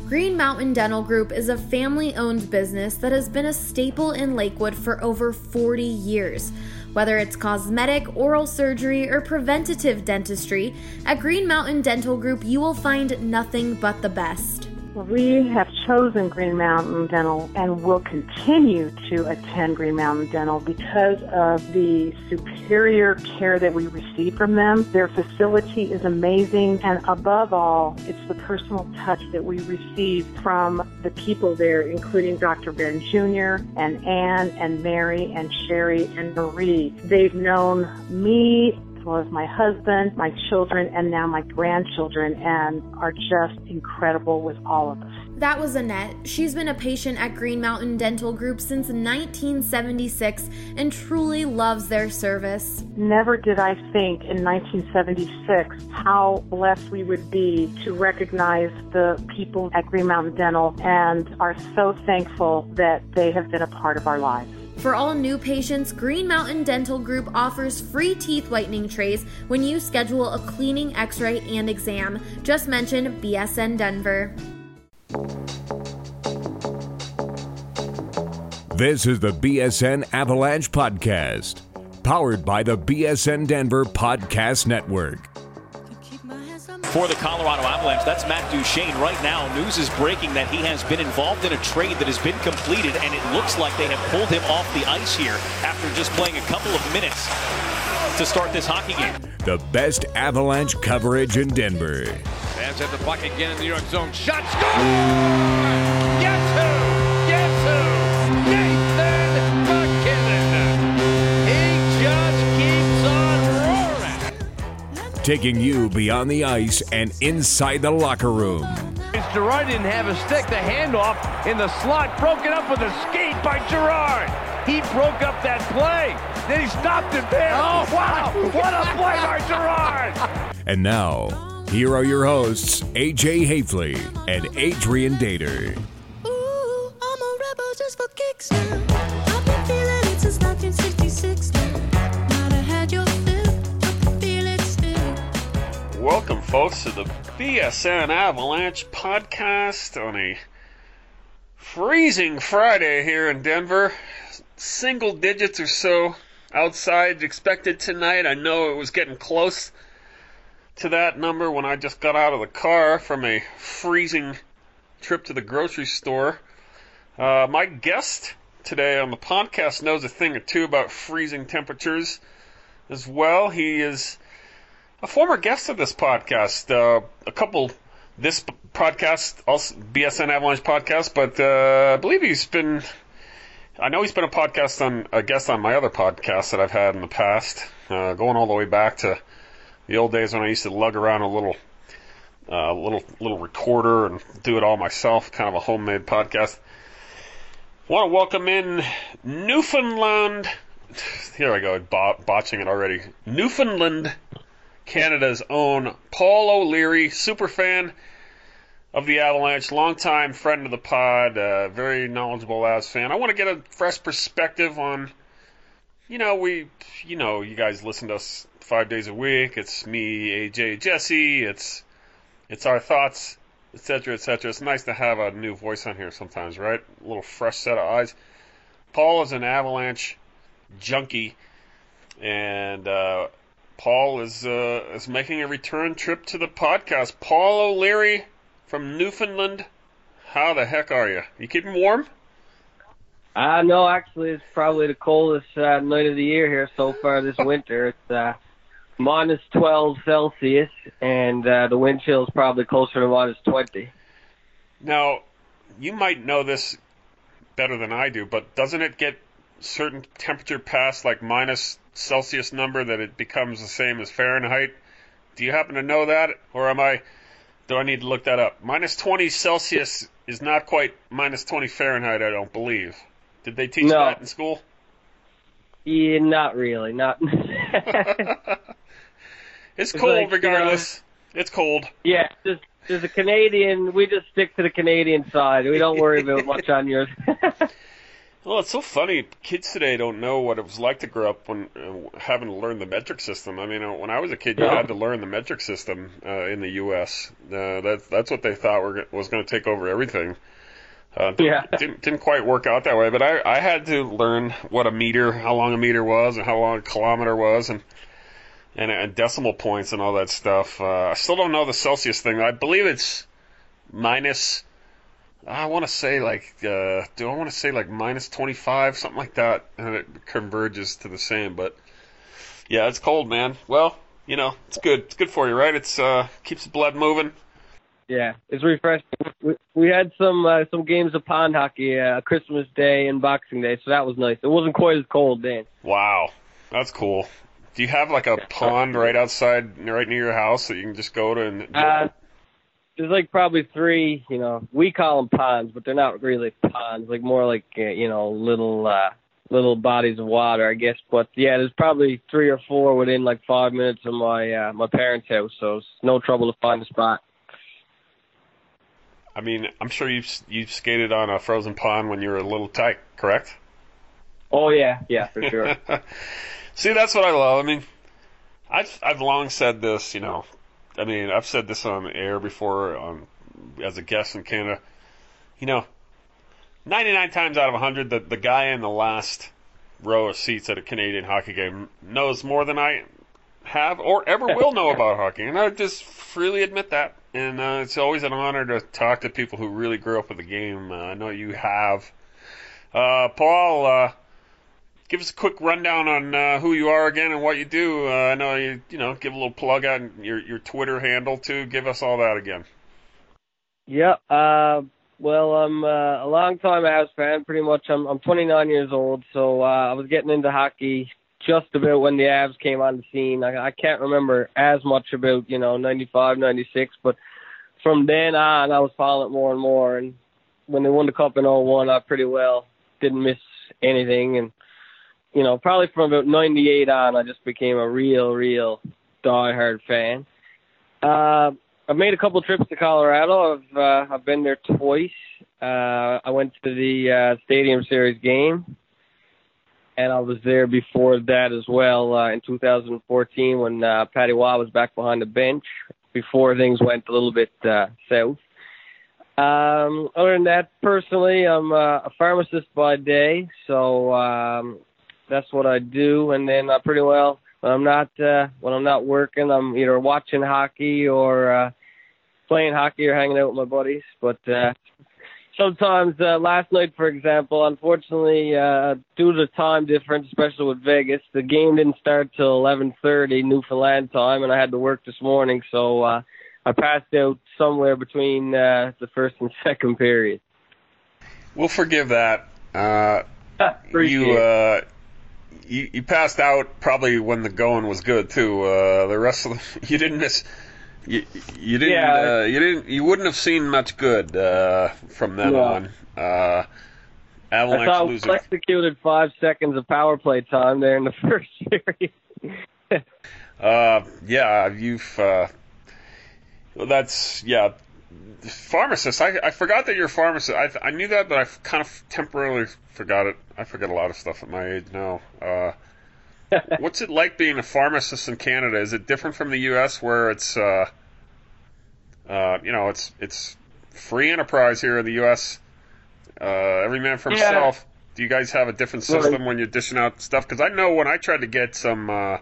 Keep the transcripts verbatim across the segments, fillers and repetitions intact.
Green Mountain Dental Group is a family-owned business that has been a staple in Lakewood for over forty years. Whether it's cosmetic, oral surgery, or preventative dentistry, at Green Mountain Dental Group you will find nothing but the best. We have chosen Green Mountain Dental and will continue to attend Green Mountain Dental because of the superior care that we receive from them. Their facility is amazing, and above all, it's the personal touch that we receive from the people there, including Doctor Ben Junior and Ann and Mary and Sherry and Marie. They've known me as well as my husband, my children, and now my grandchildren, and are just incredible with all of us. That was Annette. She's been a patient at Green Mountain Dental Group since nineteen seventy-six and truly loves their service. Never did I think in nineteen seventy-six how blessed we would be to recognize the people at Green Mountain Dental, and are so thankful that they have been a part of our lives. For all new patients, Green Mountain Dental Group offers free teeth whitening trays when you schedule a cleaning, x-ray, and exam. Just mention B S N Denver. This is the B S N Avalanche Podcast, powered by the B S N Denver Podcast Network. For the Colorado Avalanche, that's Matt Duchene. Right now, news is breaking that he has been involved in a trade that has been completed, and it looks like they have pulled him off the ice here after just playing a couple of minutes to start this hockey game. The best Avalanche coverage in Denver. Fans have the puck again in the New York zone. Shot, score! Guess who? Guess who? Nathan MacKinnon. He just keeps on roaring. Taking you beyond the ice and inside the locker room. Girard didn't have a stick. The handoff in the slot, broken up with a skate by Girard. He broke up that play. Then he stopped it there. Oh, wow. What a play by Girard. And now, here are your hosts, A J Hafley and Adrian Dater. Ooh, I'm a rebel just for kicks now. I've been feeling it since nineteen sixty-six now. Might have had your fill, I can feel it still. Welcome, folks, to the B S N Avalanche Podcast on a freezing Friday here in Denver. Single digits or so outside expected tonight. I know it was getting close to that number when I just got out of the car from a freezing trip to the grocery store. Uh, my guest today on the podcast knows a thing or two about freezing temperatures as well. He is a former guest of this podcast, uh, a couple this podcast, also B S N Avalanche podcast, but uh, I believe he's been, I know he's been a podcast on a guest on my other podcasts that I've had in the past, uh, going all the way back to the old days when I used to lug around a little, uh, little little recorder and do it all myself, kind of a homemade podcast. I want to welcome in Newfoundland. Here I go, bot- botching it already. Newfoundland, Canada's own Paul O'Leary, super fan of the Avalanche, longtime friend of the pod, uh, very knowledgeable Avs fan. I want to get a fresh perspective on, you know, we, you know, you guys listen to us five days a week. It's me, A J, Jesse. It's it's our thoughts, et cetera, et cetera. It's nice to have a new voice on here sometimes, right? A little fresh set of eyes. Paul is an Avalanche junkie, and uh, Paul is uh, is making a return trip to the podcast. Paul O'Leary from Newfoundland. How the heck are you? You keeping warm? Uh, no, actually, it's probably the coldest uh, night of the year here so far this winter. It's uh, minus twelve Celsius, and uh, the wind chill is probably closer to minus twenty. Now, you might know this better than I do, but doesn't it get certain temperature past like minus Celsius number that it becomes the same as Fahrenheit? Do you happen to know that, or am I? Do I need to look that up? Minus twenty Celsius is not quite minus twenty Fahrenheit, I don't believe. Did they teach no. that in school? Yeah, not really. Not. It's, it's cold like, regardless. You know, it's cold. Yeah, just there's a Canadian. We just stick to the Canadian side. We don't worry about much on yours. Well, it's so funny. Kids today don't know what it was like to grow up when uh, having to learn the metric system. I mean, uh, when I was a kid, you Yeah. had to learn the metric system uh, in the U S Uh, that's that's what they thought were, was going to take over everything. Uh, Yeah. didn't didn't quite work out that way. But I I had to learn what a meter, how long a meter was, and how long a kilometer was, and and, and decimal points and all that stuff. Uh, I still don't know the Celsius thing. I believe it's minus. I want to say like, uh, do I want to say like minus twenty-five, something like that, and it converges to the same. But yeah, it's cold, man. Well, you know, it's good. It's good for you, right? It's uh, keeps the blood moving. Yeah, it's refreshing. We, we had some uh, some games of pond hockey, uh, Christmas Day and Boxing Day, so that was nice. It wasn't quite as cold then. Wow, that's cool. Do you have like a pond right outside, right near your house that you can just go to? And Uh, there's like probably three, you know, we call them ponds, but they're not really ponds, like more like, uh, you know, little uh, little bodies of water, I guess. But yeah, there's probably three or four within like five minutes of my uh, my parents' house, so it's no trouble to find a spot. I mean, I'm sure you've you've skated on a frozen pond when you were a little tight, correct? Oh yeah, yeah, for sure. See, that's what I love. I mean, I've I've long said this, you know. I mean, I've said this on air before, um, as a guest in Canada. You know, ninety-nine times out of one hundred, the the guy in the last row of seats at a Canadian hockey game knows more than I have or ever will know about hockey, and I just freely admit that. And uh, it's always an honor to talk to people who really grew up with the game. Uh, I know you have. Uh, Paul, uh, give us a quick rundown on uh, who you are again and what you do. Uh, I know you, you know, give a little plug on your your Twitter handle too. Give us all that again. Yeah, uh, well, I'm uh, a long-time Avs fan. Pretty much, I'm I'm twenty-nine years old, so uh, I was getting into hockey just about when the Avs came on the scene. I, I can't remember as much about, you know, ninety-five, ninety-six, but from then on, I was following it more and more. And when they won the Cup in oh one, I pretty well didn't miss anything. And, you know, probably from about ninety-eight on, I just became a real, real diehard fan. Uh, I've made a couple trips to Colorado. I've uh, I've been there twice. Uh, I went to the uh, Stadium Series game, and I was there before that as well uh, in two thousand fourteen when uh, Patty Waugh was back behind the bench before things went a little bit uh, south. Um, other than that, personally, I'm uh, a pharmacist by day, so um, that's what I do. And then I pretty well, when I'm not uh, when I'm not working, I'm either watching hockey or uh, playing hockey or hanging out with my buddies. But uh, sometimes, uh, last night, for example, unfortunately, uh, due to the time difference, especially with Vegas, the game didn't start till eleven thirty Newfoundland time, and I had to work this morning, so uh, I passed out somewhere between uh, the first and second period. We'll forgive that. Uh, Appreciate you, it. uh, you you passed out probably when the going was good too. Uh, the rest of the, you didn't miss. You, you didn't. Yeah. Uh, you didn't. You wouldn't have seen much good uh, from then Yeah. on. Uh, I Avalanche thought we losing. executed five seconds of power play time there in the first period. Uh, yeah, you've. Uh, well, that's yeah. Pharmacist. I I forgot that you're a pharmacist. I I knew that, but I kind of temporarily forgot it. I forget a lot of stuff at my age now. Uh, what's it like being a pharmacist in Canada? Is it different from the U S where it's uh, uh, you know, it's it's free enterprise here in the U S. Uh, every man for Yeah. himself. Do you guys have a different system when you're dishing out stuff? Because I know when I tried to get some. Uh,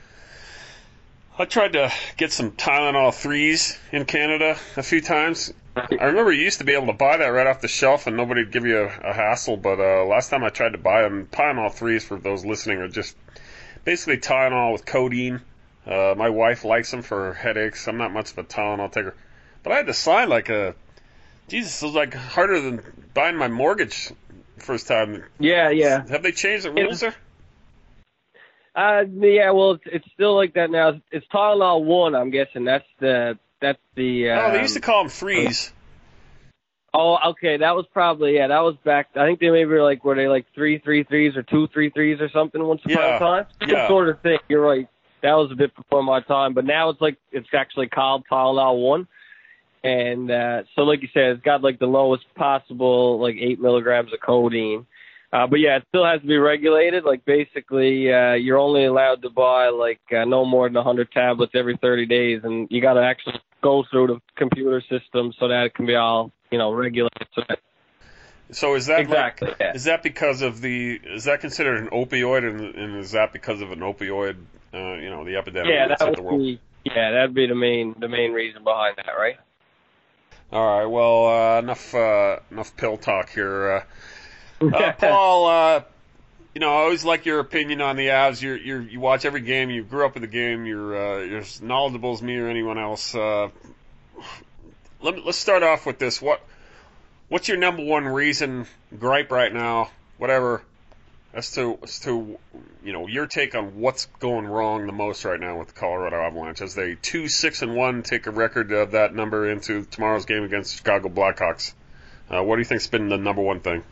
I tried to get some Tylenol threes in Canada a few times. I remember you used to be able to buy that right off the shelf and nobody would give you a, a hassle, but uh, last time I tried to buy them, Tylenol threes, for those listening, are just basically Tylenol with codeine. Uh, my wife likes them for her headaches. I'm not much of a Tylenol taker. But I had to sign like a... Jesus, it was like harder than buying my mortgage first time. Yeah, yeah. Have they changed the rules there? Uh, yeah, well, it's, it's still like that now. It's Tylenol one, I'm guessing. That's the that's the. Um, Oh, they used to call them threes. Oh, okay, that was probably yeah. That was back. I think they maybe were like were they like three three threes or two three threes or something once upon Yeah, a time. Some yeah. sort of thing. You're right. That was a bit before my time, but now it's like it's actually called Tylenol one, and uh, so like you said, it's got like the lowest possible like eight milligrams of codeine. Uh, but yeah, it still has to be regulated. Like basically, uh, you're only allowed to buy like uh, no more than one hundred tablets every thirty days, and you got to actually go through the computer system so that it can be all, you know, regulated. So, that, so is that exactly? Like, yeah. Is that because of the? Is that considered an opioid, and, and is that because of an opioid? Uh, you know, the epidemic Yeah, that's that hit the would world. be. Yeah, that'd be the main the main reason behind that, right? All right. Well, uh, enough uh, enough pill talk here. Uh, uh, Paul, uh, you know, I always like your opinion on the Avs. You're, you're, you watch every game. You grew up with the game. You're, uh, you're as knowledgeable as me or anyone else. Uh, let me, let's start off with this. What What's your number one reason, gripe right now, whatever, as to as to you know your take on what's going wrong the most right now with the Colorado Avalanche as they two six and one take a record of that number into tomorrow's game against the Chicago Blackhawks. Uh, what do you think's been the number one thing?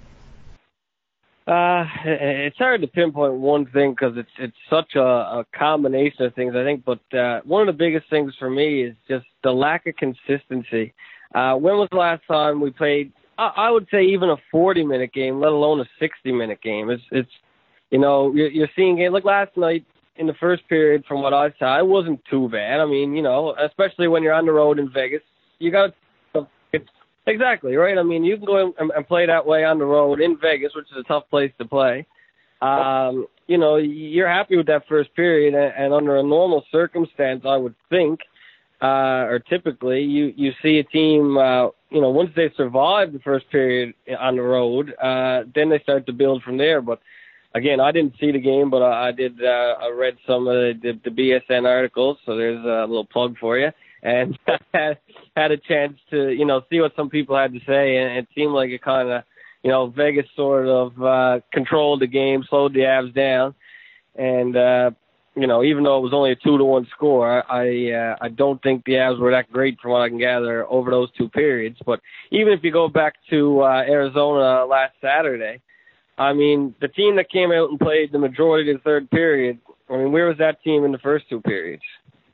Uh, it's hard to pinpoint one thing because it's it's such a, a combination of things, I think. But uh, one of the biggest things for me is just the lack of consistency. Uh, when was the last time we played? I, I would say even a forty-minute game, let alone a sixty-minute game. It's it's you know you're, you're seeing games like last night in the first period. From what I saw, it wasn't too bad. I mean, you know, especially when you're on the road in Vegas, you got it's. Exactly, right? I mean, you can go and, and play that way on the road in Vegas, which is a tough place to play. Um, you know, you're happy with that first period, and, and under a normal circumstance, I would think, uh, or typically, you, you see a team, uh, you know, once they survive the first period on the road, uh, then they start to build from there. But, again, I didn't see the game, but I, I did, uh, I read some of the, the, the B S N articles, so there's a little plug for you. And had, had a chance to, you know, see what some people had to say, and it seemed like it kind of, you know, Vegas sort of uh, controlled the game, slowed the Avs down, and uh, you know, even though it was only a two to one score, I uh, I don't think the Avs were that great from what I can gather over those two periods. But even if you go back to uh, Arizona last Saturday, I mean, the team that came out and played the majority of the third period, I mean, where was that team in the first two periods?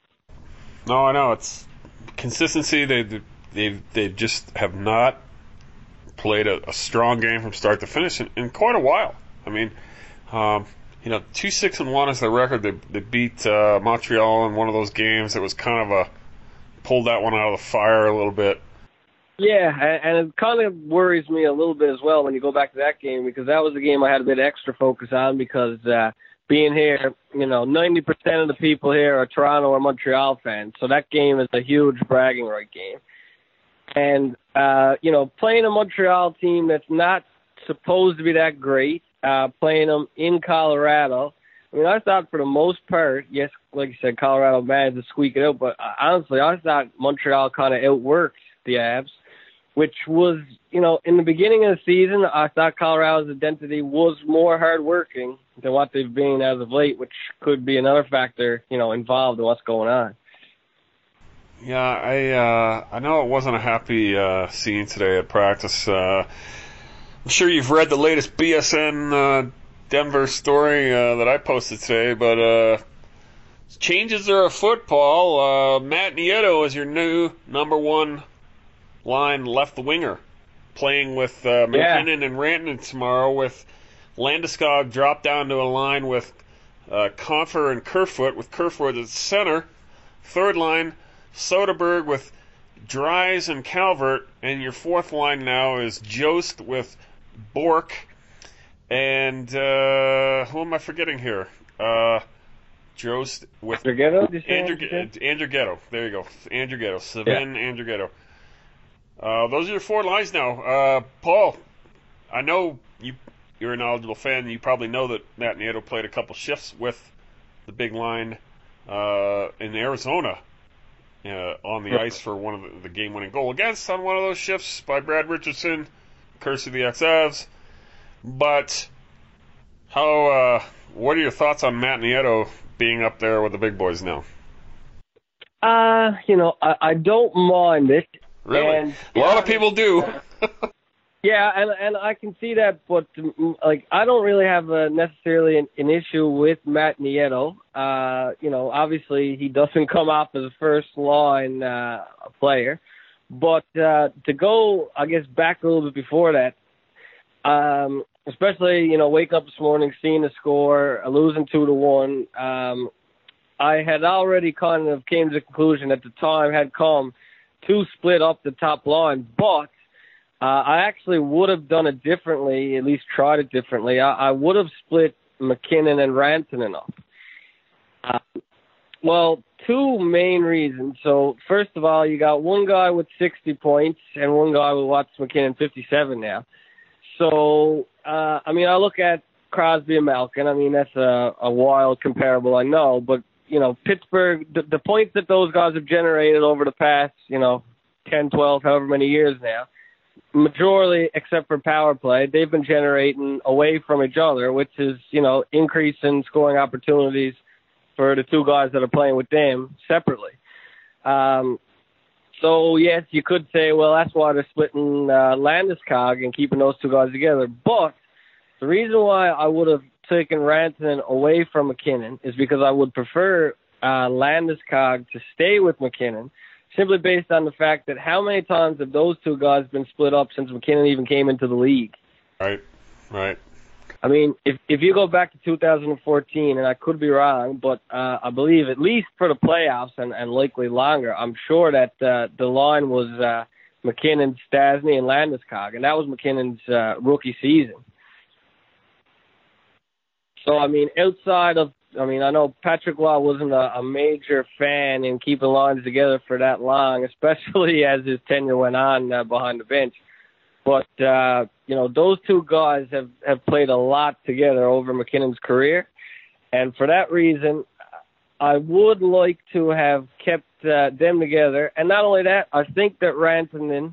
No, I know it's consistency. They they they just have not played a, a strong game from start to finish in, in quite a while. I mean, um, you know, two six and one is their record. They they beat uh, Montreal in one of those games. It was kind of a pulled that one out of the fire a little bit. Yeah, and it kind of worries me a little bit as well when you go back to that game, because that was a game I had a bit extra focus on because. Uh, Being here, you know, ninety percent of the people here are Toronto or Montreal fans, so that game is a huge bragging right game. And, uh, you know, playing a Montreal team that's not supposed to be that great, uh, playing them in Colorado, I mean, I thought for the most part, yes, like you said, Colorado managed to squeak it out, but honestly, I thought Montreal kind of outworked the Avs, which was, you know, in the beginning of the season, I thought Colorado's identity was more hardworking than what they've been as of late, which could be another factor, you know, involved in what's going on. Yeah, I uh, I know it wasn't a happy uh, scene today at practice. Uh, I'm sure you've read the latest B S N uh, Denver story uh, that I posted today, but uh, changes are afoot, Paul. Uh, Matt Nieto is your new number one line left winger, playing with uh, McKinnon yeah. and Rantanen tomorrow, with Landeskog dropped down to a line with uh, Compher and Kerfoot, with Kerfoot at center. Third line, Soderberg with Dries and Calvert. And your fourth line now is Jost with Bork. And uh, who am I forgetting here? Uh, Jost with Andrighetto? Andrighetto. Andrighetto. There you go. Andrighetto. Sven yeah. Andrighetto. Uh, those are your four lines now. Uh, Paul, I know you, you're a knowledgeable fan. You probably know that Matt Nieto played a couple shifts with the big line uh, in Arizona uh, on the ice for one of the, the game-winning goal against on one of those shifts by Brad Richardson. Curse of the X-Avs. But how? Uh, what are your thoughts on Matt Nieto being up there with the big boys now? Uh, you know, I, I don't mind it. Really? And, a lot yeah, of people do. yeah, and and I can see that, but like I don't really have a, necessarily an, an issue with Matt Nieto. Uh, you know, obviously he doesn't come off as a first line uh, player, but uh, to go, I guess, back a little bit before that, Um, especially, you know, waking up this morning, seeing the score, losing two to one. Um, I had already kind of came to the conclusion at the time had come to split up the top line, but uh, I actually would have done it differently, at least tried it differently. I, I would have split McKinnon and Rantanen up. Uh, well, two main reasons. So, first of all, you got one guy with sixty points and one guy with Watts McKinnon fifty-seven now. So, uh, I mean, I look at Crosby and Malkin. I mean, that's a, a wild comparable, I know. But, you know, Pittsburgh, the, the points that those guys have generated over the past, you know, ten, twelve, however many years now, majority, except for power play, they've been generating away from each other, which is, you know, increasing scoring opportunities for the two guys that are playing with them separately. Um, so, yes, you could say, well, that's why they're splitting uh, Landeskog and keeping those two guys together. But the reason why I would have taken Rantanen away from McKinnon is because I would prefer uh, Landeskog to stay with McKinnon, simply based on the fact that how many times have those two guys been split up since McKinnon even came into the league? Right, right. I mean, if if you go back to two thousand fourteen, and I could be wrong, but uh, I believe at least for the playoffs and, and likely longer, I'm sure that uh, the line was uh, McKinnon, Stastny, and Landeskog, and that was McKinnon's uh, rookie season. So, I mean, outside of, I mean, I know Patrick Law wasn't a, a major fan in keeping lines together for that long, especially as his tenure went on uh, behind the bench. But, uh, you know, those two guys have, have played a lot together over McKinnon's career. And for that reason, I would like to have kept uh, them together. And not only that, I think that Rantanen,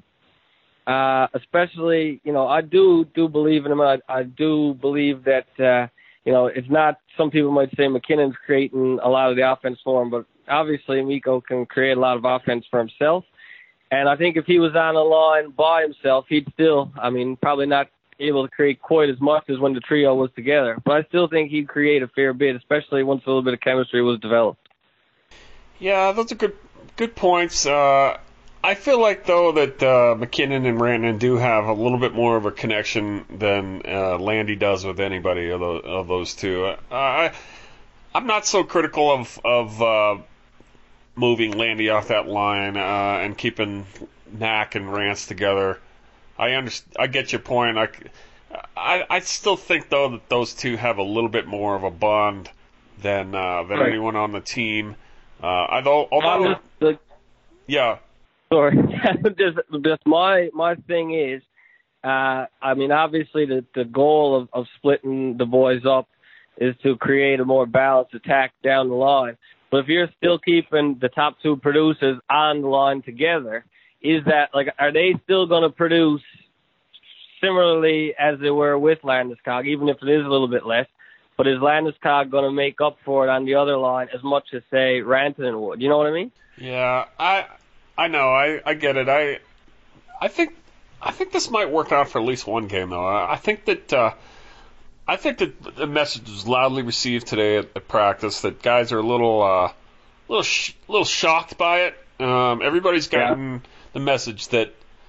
uh, especially, you know, I do do believe in him. I, I do believe that, uh, you know, it's not, some people might say McKinnon's creating a lot of the offense for him, but obviously Mikko can create a lot of offense for himself. And I think if he was on a line by himself, he'd still, I mean, probably not able to create quite as much as when the trio was together. But I still think he'd create a fair bit, especially once a little bit of chemistry was developed. Yeah, those are good good points. Uh, I feel like, though, that uh, McKinnon and Rantanen do have a little bit more of a connection than uh, Landy does with anybody of those, of those two. Uh, I, I'm not so critical of... of uh, moving Landy off that line uh, and keeping Mac and Rance together. I understand. I get your point. I, I, I still think, though, that those two have a little bit more of a bond than uh, than right. anyone on the team. Uh, although, although, the, yeah. Sorry, just, just my my thing is, uh, I mean, obviously the the goal of, of splitting the boys up is to create a more balanced attack down the line. But if you're still keeping the top two producers on the line together, is that, like, are they still going to produce similarly as they were with Landeskog, even if it is a little bit less? But is Landeskog going to make up for it on the other line as much as, say, Rantanen would? You know what I mean? Yeah, I I know, I, I get it. I I think I think this might work out for at least one game, though. I, I think that. Uh, I think that the message was loudly received today at, at practice that guys are a little, uh, little, sh- little shocked by it. Um, everybody's gotten yeah. the message that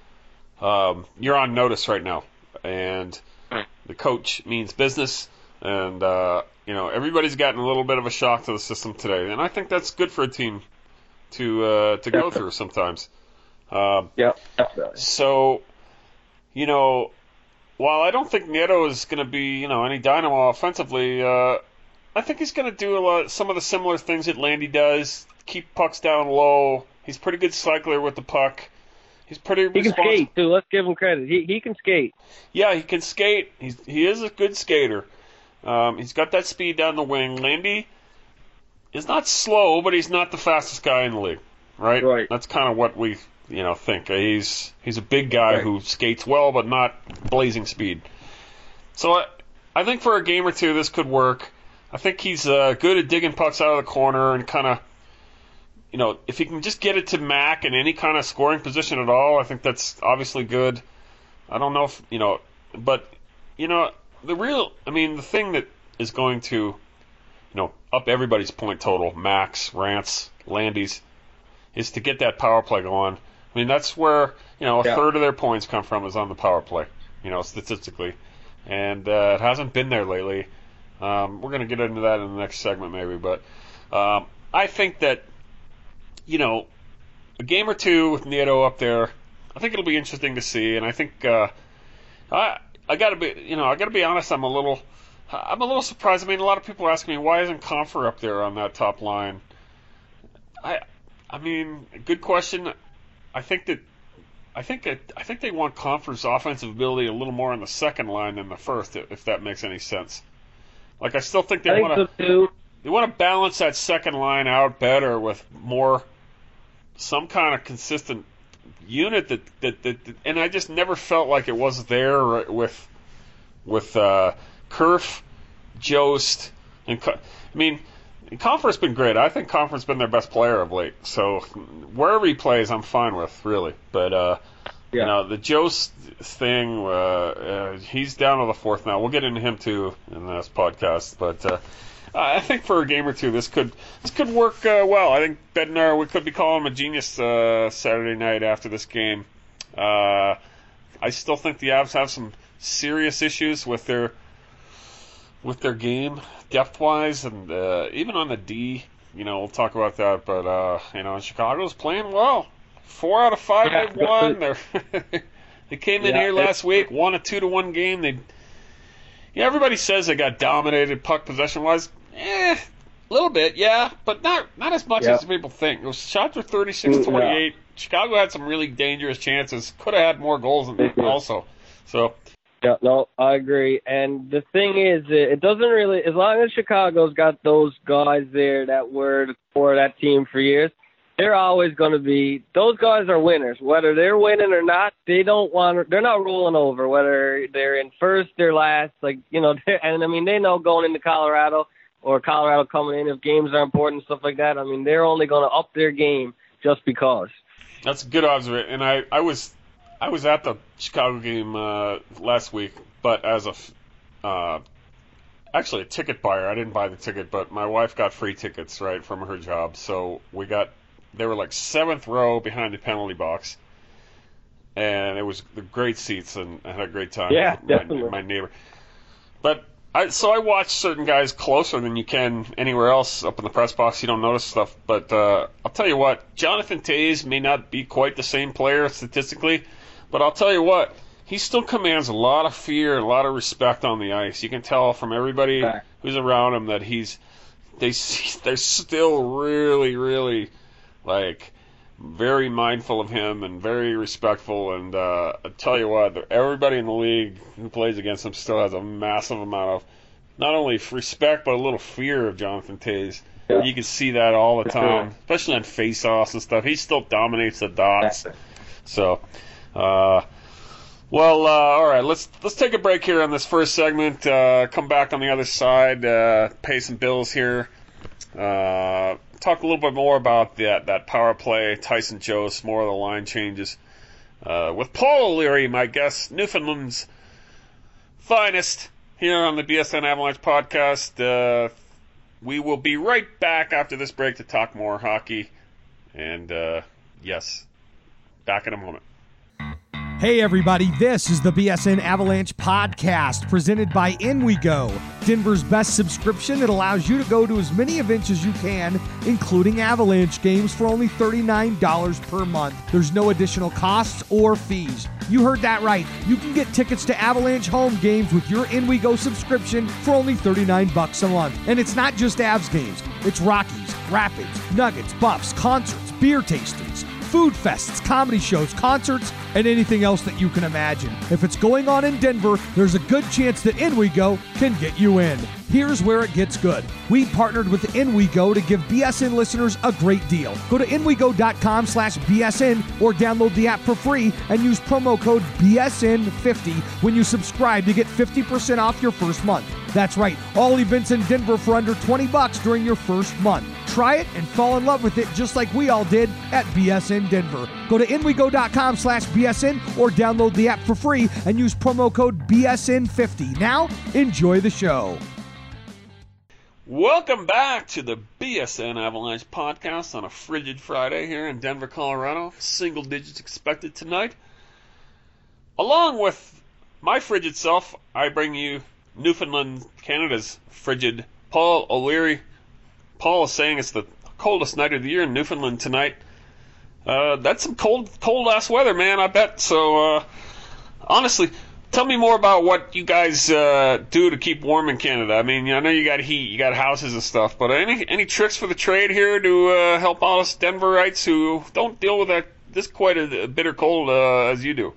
um, you're on notice right now, and the coach means business. And uh, you know, everybody's gotten a little bit of a shock to the system today, and I think that's good for a team to uh, to go through sometimes. Um, yeah, definitely. So, you know. While I don't think Nieto is going to be, you know, any dynamo offensively, uh, I think he's going to do a lot, some of the similar things that Landy does. Keep pucks down low. He's a pretty good cycler with the puck. He's pretty. He can respons- skate too. Let's give him credit. He he can skate. Yeah, he can skate. He's he is a good skater. Um, he's got that speed down the wing. Landy is not slow, but he's not the fastest guy in the league, right? Right. That's kind of what we. You know, think he's he's a big guy right. who skates well, but not blazing speed. So I, I think for a game or two this could work. I think he's uh, good at digging pucks out of the corner and kind of, you know, if he can just get it to Mac in any kind of scoring position at all, I think that's obviously good. I don't know if you know, but you know, the real, I mean, the thing that is going to, you know, up everybody's point total, Mac's, Rance, Landy's, is to get that power play going. I mean, that's where, you know, a yeah. third of their points come from is on the power play, you know, statistically. and uh, it hasn't been there lately. Um, we're going to get into that in the next segment maybe, but um, I think that, you know, a game or two with Nieto up there, I think it'll be interesting to see, and I think uh, I I got to be, you know, I got to be honest, I'm a little I'm a little surprised. I mean, a lot of people ask me, why isn't Compher up there on that top line? I I mean, good question. I think that I think that I think they want Compher's offensive ability a little more on the second line than the first, if that makes any sense. Like, I still think they want to they want to balance that second line out better with more some kind of consistent unit that that, that, that and I just never felt like it was there with with uh, Kerf, Jost, and I mean, Compher's been great. I think Compher's been their best player of late. So wherever he plays, I'm fine with, really. But uh, yeah. you know, the Jost thing, uh, uh, he's down to the fourth now. We'll get into him too in this podcast. But uh, I think for a game or two, this could this could work uh, well. I think Bednar, we could be calling him a genius uh, Saturday night after this game. Uh, I still think the Avs have some serious issues with their with their game depth-wise, and uh, even on the D. You know, we'll talk about that. But uh, you know, Chicago's playing well. Four out of five yeah. they've won. They're they came in yeah, here last week, won a two to one game. They, yeah, everybody says they got dominated puck possession wise. Eh, a little bit, yeah, but not not as much yeah. as people think. Those shots were thirty-six twenty-eight. Yeah. Chicago had some really dangerous chances. Could have had more goals than also. So. Yeah, no, I agree. And the thing is, it doesn't really, as long as Chicago's got those guys there that were for that team for years, they're always going to be, those guys are winners. Whether they're winning or not, they don't want, they're not rolling over. Whether they're in first or last, like, you know, and I mean, they know going into Colorado or Colorado coming in, if games are important, stuff like that, I mean, they're only going to up their game just because. That's a good observation. And I, I was, I was at the Chicago game uh, last week, but as a, uh, actually a ticket buyer. I didn't buy the ticket, but my wife got free tickets, right, from her job. So we got, they were like seventh row behind the penalty box, and it was the great seats, and I had a great time. Yeah, with definitely. My, my neighbor. But I, so I watched certain guys closer than you can anywhere else up in the press box. You don't notice stuff, but uh, I'll tell you what, Jonathan Toews may not be quite the same player statistically. But I'll tell you what, he still commands a lot of fear, a lot of respect on the ice. You can tell from everybody who's around him that he's they they're still really, really like very mindful of him and very respectful. And uh, I tell you what, everybody in the league who plays against him still has a massive amount of not only respect but a little fear of Jonathan Toews. Yeah. You can see that all the time, especially on face-offs and stuff. He still dominates the dots. So. Uh, well, uh, all right. Let's let's take a break here on this first segment. Uh, come back on the other side. Uh, pay some bills here. Uh, talk a little bit more about that that power play. Tyson Jost, more of the line changes. Uh, with Paul O'Leary, my guest, Newfoundland's finest, here on the B S N Avalanche podcast. Uh, we will be right back after this break to talk more hockey. And uh, yes, back in a moment. Hey everybody, this is the B S N Avalanche podcast presented by InWeGo, Denver's best subscription that allows you to go to as many events as you can, including Avalanche games, for only thirty-nine dollars per month. There's no additional costs or fees. You heard that right. You can get tickets to Avalanche home games with your InWeGo subscription for only thirty-nine bucks a month. And it's not just Avs games. It's Rockies, Rapids, Nuggets, Buffs, concerts, beer tastings, food fests, comedy shows, concerts, and anything else that you can imagine. If it's going on in Denver, there's a good chance that InWeGo can get you in. Here's where it gets good. We partnered with InWeGo to give B S N listeners a great deal. Go to InWeGo.com slash BSN or download the app for free and use promo code B S N fifty when you subscribe to get fifty percent off your first month. That's right, all events in Denver for under twenty bucks during your first month. Try it and fall in love with it just like we all did at B S N Denver. Go to InWeGo.com slash BSN or download the app for free and use promo code B S N fifty. Now, enjoy the show. Welcome back to the B S N Avalanche podcast on a frigid Friday here in Denver, Colorado. Single digits expected tonight. Along with my frigid self, I bring you Newfoundland, Canada's frigid Paul O'Leary. Paul is saying it's the coldest night of the year in Newfoundland tonight. Uh, that's some cold, cold-ass weather, man, I bet. So, uh, honestly, tell me more about what you guys uh, do to keep warm in Canada. I mean, I know you got heat, you got houses and stuff, but any any tricks for the trade here to uh, help out us Denverites who don't deal with that this quite a, a bitter cold uh, as you do?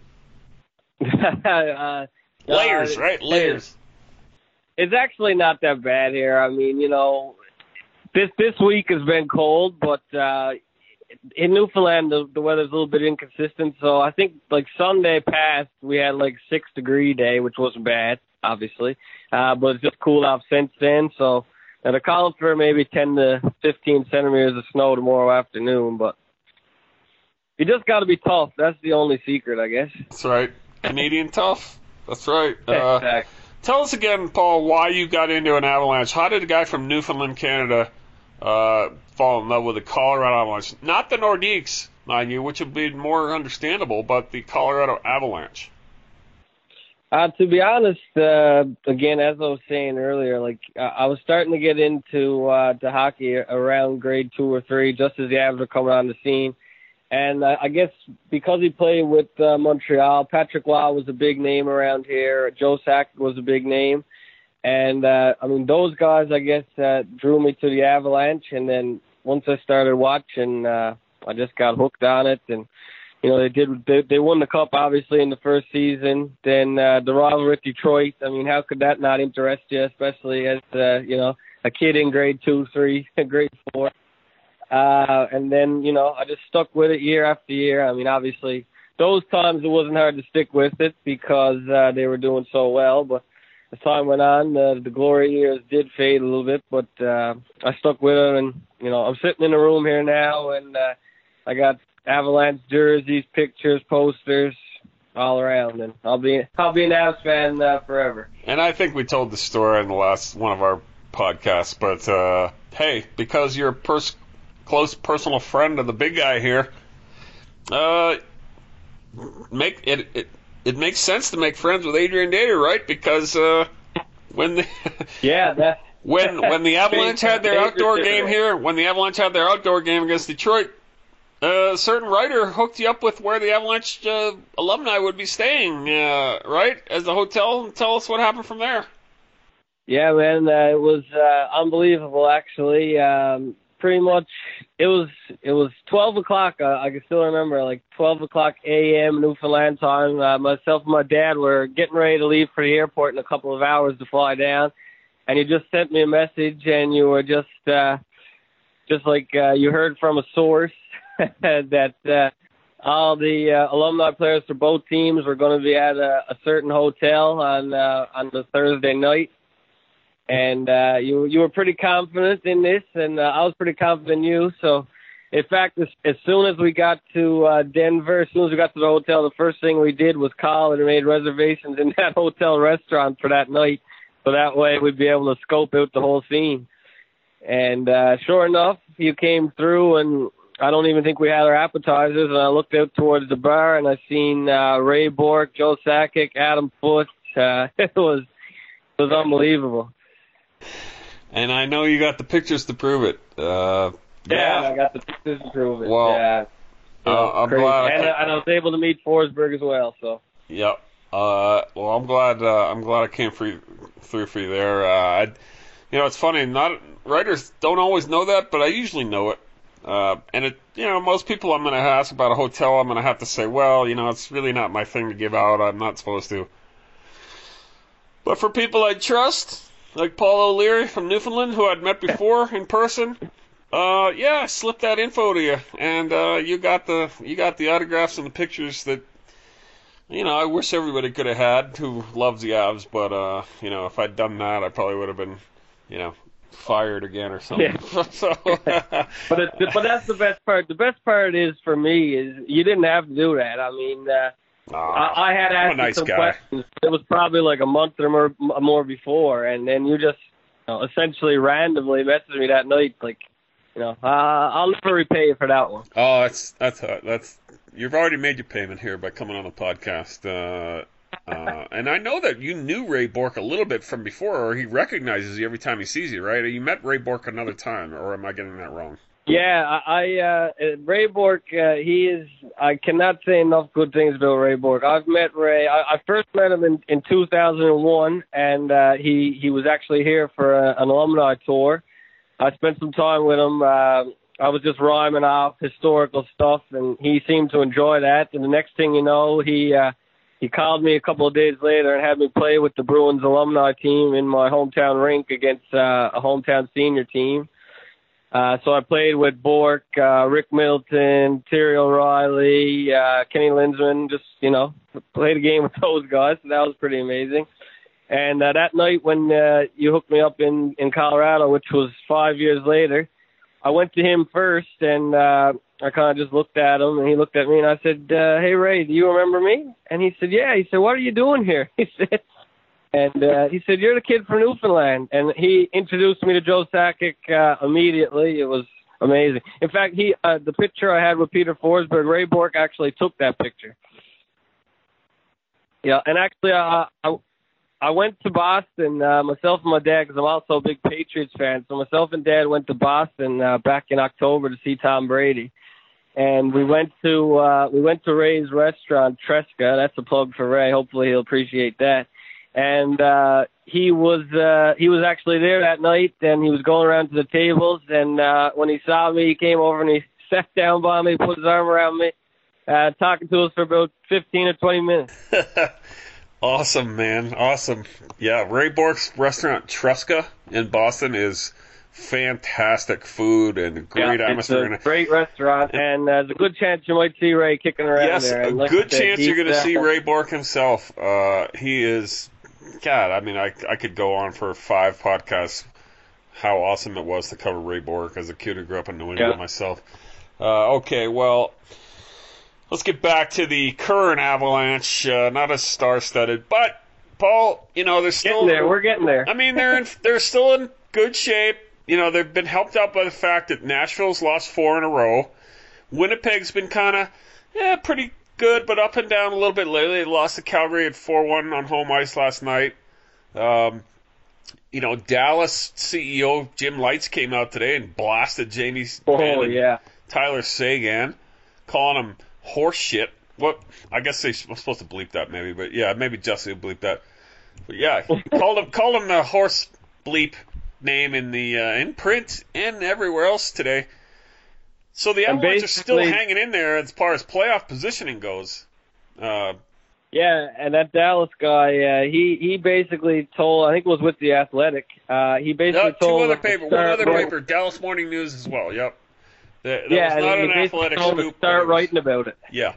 uh, Layers, uh, right? Layers. It's actually not that bad here. I mean, you know, this this week has been cold, but uh, in Newfoundland the, the weather's a little bit inconsistent. So I think like Sunday passed, we had like six degree day, which wasn't bad, obviously, uh, but it's just cooled off since then. So and they're calling for maybe ten to fifteen centimeters of snow tomorrow afternoon, but you just got to be tough. That's the only secret, I guess. That's right. Canadian tough. That's right. Uh, exactly. Tell us again, Paul, why you got into an Avalanche. How did a guy from Newfoundland, Canada, uh, fall in love with the Colorado Avalanche? Not the Nordiques, mind you, which would be more understandable, but the Colorado Avalanche. Uh, to be honest, uh, again, as I was saying earlier, like uh, I was starting to get into uh, to hockey around grade two or three, just as the Avs were coming on the scene. And uh, I guess because he played with uh, Montreal, Patrick Roy was a big name around here. Joe Sakic was a big name. And, uh, I mean, those guys, I guess, uh, drew me to the Avalanche. And then once I started watching, uh, I just got hooked on it. And, you know, they did they, they won the Cup, obviously, in the first season. Then uh, the rivalry with Detroit. I mean, how could that not interest you, especially as, uh, you know, a kid in grade two, three, grade four. Uh, and then, you know, I just stuck with it year after year. I mean, obviously, those times it wasn't hard to stick with it because uh, they were doing so well. But as time went on, uh, the glory years did fade a little bit. But uh, I stuck with it. And, you know, I'm sitting in a room here now, and uh, I got Avalanche jerseys, pictures, posters, all around. And I'll be I'll be an Avs fan uh, forever. And I think we told the story in the last one of our podcasts. But, uh, hey, because you're a person... close personal friend of the big guy here. Uh, make it, it it makes sense to make friends with Adrian Dater, right? Because uh, when the yeah, that when when the Avalanche had their outdoor game here, when the Avalanche had their outdoor game against Detroit, uh, a certain writer hooked you up with where the Avalanche uh, alumni would be staying, uh, right? As the hotel. Tell us what happened from there. Yeah, man, uh, it was uh, unbelievable. Actually. Um, Pretty much, it was it was twelve o'clock. Uh, I can still remember, like twelve o'clock a m Newfoundland time. Uh, myself and my dad were getting ready to leave for the airport in a couple of hours to fly down, and you just sent me a message, and you were just uh, just like uh, you heard from a source that uh, all the uh, alumni players for both teams were going to be at a, a certain hotel on uh, on the Thursday night. And uh, you you were pretty confident in this, and uh, I was pretty confident in you. So, in fact, as, as soon as we got to uh, Denver, as soon as we got to the hotel, the first thing we did was call and made reservations in that hotel restaurant for that night. So that way we'd be able to scope out the whole scene. And uh, sure enough, you came through, and I don't even think we had our appetizers. And I looked out towards the bar, and I seen uh, Ray Bourque, Joe Sakic, Adam Foote. Uh, it was it was unbelievable. And I know you got the pictures to prove it. Uh, yeah, yeah, I got the pictures to prove it. Well, yeah. uh, I'm crazy. glad. And, I, and I was able to meet Forsberg as well. So. Yep. Uh, well, I'm glad. Uh, I'm glad I came for you, through for you there. Uh, I, you know, it's funny. Not writers don't always know that, but I usually know it. Uh, and it, you know, most people I'm going to ask about a hotel, I'm going to have to say, well, you know, it's really not my thing to give out. I'm not supposed to. But for people I trust, like Paul O'Leary from Newfoundland, who I'd met before in person, uh, yeah, I slipped that info to you, and uh, you got the you got the autographs and the pictures that, you know, I wish everybody could have had who loves the Avs, but uh, you know, if I'd done that, I probably would have been, you know, fired again or something. Yeah. so, but it, but that's the best part. The best part is for me is you didn't have to do that. I mean. Uh, Oh, I, I had asked nice you some guy. questions. It was probably like a month or more, more before, and then you just you know, essentially randomly messaged me that night, like, you know, uh, I'll never repay you for that one. Oh, that's that's uh, that's you've already made your payment here by coming on the podcast, uh, uh, and and I know that you knew Ray Bourque a little bit from before, or he recognizes you every time he sees you, right? You met Ray Bourque another time, or am I getting that wrong? Yeah, I, uh, Ray Bourque, uh, he is, I cannot say enough good things about Ray Bourque. I've met Ray, I, I first met him in, in two thousand one, and uh, he, he was actually here for a, an alumni tour. I spent some time with him. Uh, I was just rhyming off historical stuff, and he seemed to enjoy that. And the next thing you know, he uh, he called me a couple of days later and had me play with the Bruins alumni team in my hometown rink against uh, a hometown senior team. Uh, so I played with Bourque, uh, Rick Middleton, Terry O'Reilly, uh, Kenny Linsman, just, you know, played a game with those guys. So that was pretty amazing. And uh, that night when uh, you hooked me up in, in Colorado, which was five years later, I went to him first, and uh, I kind of just looked at him, and he looked at me, and I said, uh, hey, Ray, do you remember me? And he said, yeah. He said, what are you doing here? He said, and uh, he said, you're the kid from Newfoundland. And he introduced me to Joe Sakic uh, immediately. It was amazing. In fact, he uh, the picture I had with Peter Forsberg, Ray Bourque actually took that picture. Yeah, and actually, uh, I I went to Boston, uh, myself and my dad, because I'm also a big Patriots fan. So myself and Dad went to Boston uh, back in October to see Tom Brady, and we went to uh, we went to Ray's restaurant, Tresca. That's a plug for Ray. Hopefully he'll appreciate that. And uh, he was uh, he was actually there that night, and he was going around to the tables. And uh, when he saw me, he came over and he sat down by me, put his arm around me, uh, talking to us for about fifteen or twenty minutes. Awesome, man. Awesome. Yeah, Ray Bourque's restaurant, Tresca, in Boston, is fantastic food and great yeah, atmosphere. It's a great restaurant, and uh, there's a good chance you might see Ray kicking around yes, there. Yes, a like good said, chance you're going to uh, see Ray Bourque himself. Uh, he is, God, I mean, I, I could go on for five podcasts how awesome it was to cover Ray Bourque as a kid who grew up in New England yeah. myself. Uh, okay, well, let's get back to the current Avalanche. Uh, not as star-studded, but Paul, you know, they're still getting there. We're getting there. I mean, they're in, they're still in good shape. You know, they've been helped out by the fact that Nashville's lost four in a row. Winnipeg's been kind of, yeah, pretty good, but up and down a little bit lately. They lost to Calgary at four one on home ice last night. Um, you know, Dallas C E O Jim Lites came out today and blasted Jamie oh, yeah. Tyler Seguin, calling him horse shit. What? I guess they're supposed to bleep that maybe, but yeah, maybe Jesse will bleep that. But yeah, called him called him the horse bleep name in the uh, in print and everywhere else today. So the Avalanche are still hanging in there as far as playoff positioning goes. Uh, yeah, and that Dallas guy, uh, he he basically told, I think it was with the Athletic. Uh, he basically no, told two other paper, one other right. paper, Dallas Morning News as well. Yep. That, that yeah, was not and an he Athletic told scoop. To start was, writing about it. Yeah.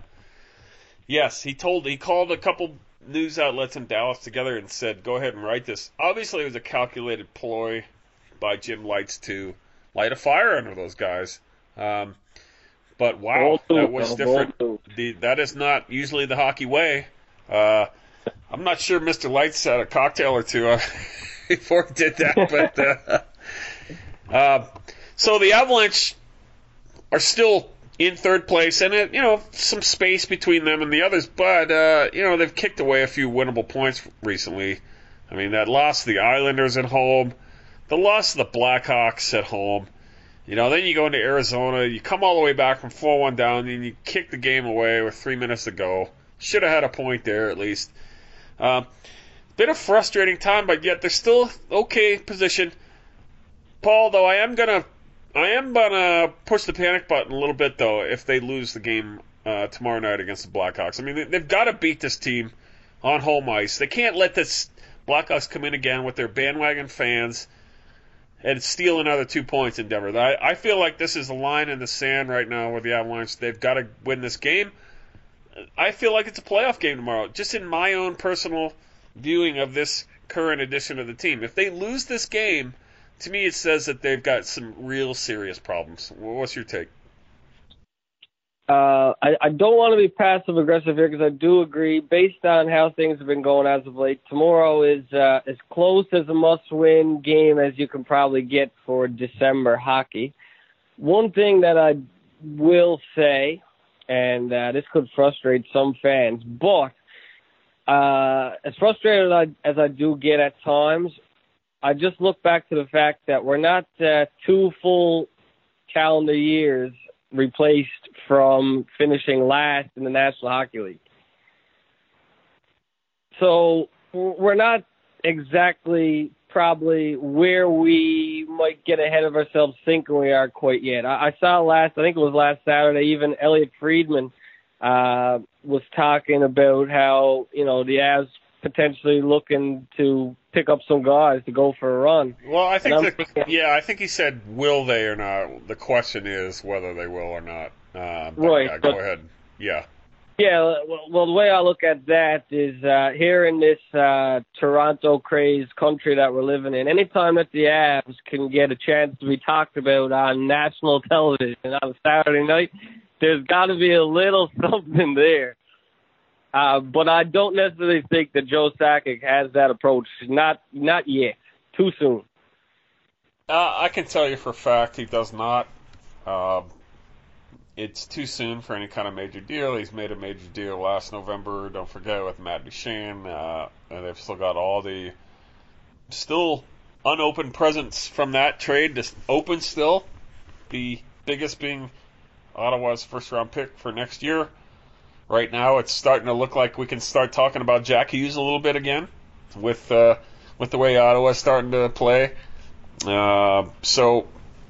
Yes, he told he called a couple news outlets in Dallas together and said, "Go ahead and write this." Obviously, it was a calculated ploy by Jim Lites to light a fire under those guys. Um, but wow, that was different. The, that is not usually the hockey way. Uh, I'm not sure Mister Lites had a cocktail or two uh, before he did that, but uh, uh, so the Avalanche are still in third place, and it, you know, some space between them and the others, but uh, you know, they've kicked away a few winnable points recently. I mean, that loss to the Islanders at home, the loss to the Blackhawks at home. You know, then you go into Arizona, you come all the way back from four one down, and you kick the game away with three minutes to go. Should have had a point there at least. Um, been a frustrating time, but yet they're still okay position. Paul, though, I am gonna, I am gonna push the panic button a little bit though if they lose the game uh, tomorrow night against the Blackhawks. I mean, they, they've got to beat this team on home ice. They can't let this Blackhawks come in again with their bandwagon fans and steal another two points in Denver. I, I feel like this is a line in the sand right now with the Avalanche. They've got to win this game. I feel like it's a playoff game tomorrow, just in my own personal viewing of this current edition of the team. If they lose this game, to me it says that they've got some real serious problems. What's your take? Uh, I, I don't want to be passive-aggressive here because I do agree, based on how things have been going as of late, tomorrow is uh, as close as a must-win game as you can probably get for December hockey. One thing that I will say, and uh, this could frustrate some fans, but uh, as frustrated as I, as I do get at times, I just look back to the fact that we're not uh, two full calendar years replaced from finishing last in the National Hockey League. So we're not exactly probably where we might get ahead of ourselves thinking we are quite yet. I, I saw last, I think it was last Saturday, even Elliot Friedman uh, was talking about how, you know, the Avs potentially looking to pick up some guys to go for a run. Well, I think, the, thinking, yeah, I think he said, will they or not? The question is whether they will or not. Uh, but right. Yeah, go but, ahead. Yeah. Yeah, well, well, the way I look at that is uh, here in this uh, Toronto crazed country that we're living in, anytime that the Avs can get a chance to be talked about on national television on a Saturday night, there's got to be a little something there. Uh, but I don't necessarily think that Joe Sakic has that approach. Not, not yet. Too soon. Uh, I can tell you for a fact he does not. Uh, It's too soon for any kind of major deal. He's made a major deal last November, don't forget, with Matt Duchene. Uh, and they've still got all the still unopened presents from that trade. Just open still. The biggest being Ottawa's first-round pick for next year. Right now it's starting to look like we can start talking about Jack Hughes a little bit again with, uh, with the way Ottawa's starting to play. Uh, so...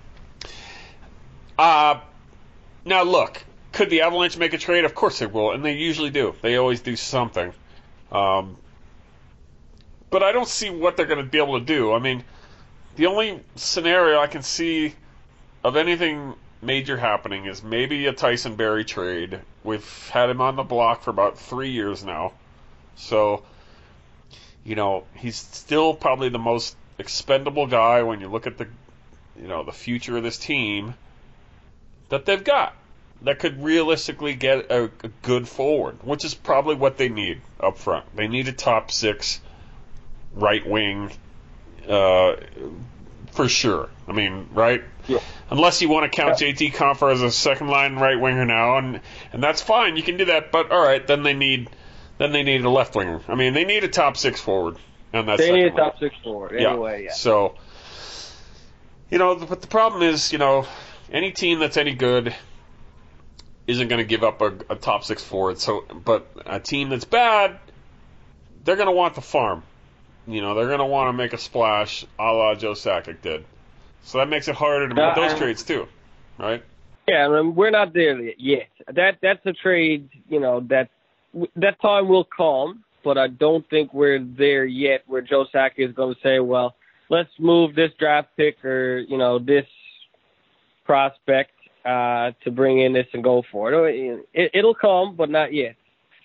Uh, Now, look, could the Avalanche make a trade? Of course they will, and they usually do. They always do something. Um, but I don't see what they're going to be able to do. I mean, the only scenario I can see of anything major happening is maybe a Tyson Barrie trade. We've had him on the block for about three years now. So, you know, he's still probably the most expendable guy when you look at the, you know, the future of this team that they've got that could realistically get a, a good forward, which is probably what they need up front. They need a top six right wing uh, for sure. I mean, right? Yeah. Unless you want to count Yeah. J T Compher as a second line right winger now, and and that's fine. You can do that, but all right, then they need then they need a left winger. I mean, they need a top six forward, and that's they need a top six forward anyway. Yeah. yeah. So, you know, but the problem is, you know, any team that's any good isn't going to give up a, a top six forward. So, but a team that's bad, they're going to want the farm. You know, they're going to want to make a splash, a la Joe Sakic did. So that makes it harder to make Uh, those trades too, right? Yeah, I mean, we're not there yet. That that's a trade, you know, that that time will come, but I don't think we're there yet where Joe Sakic is going to say, well, let's move this draft pick or, you know, this prospect uh, to bring in this and go for it. it. It'll come, but not yet.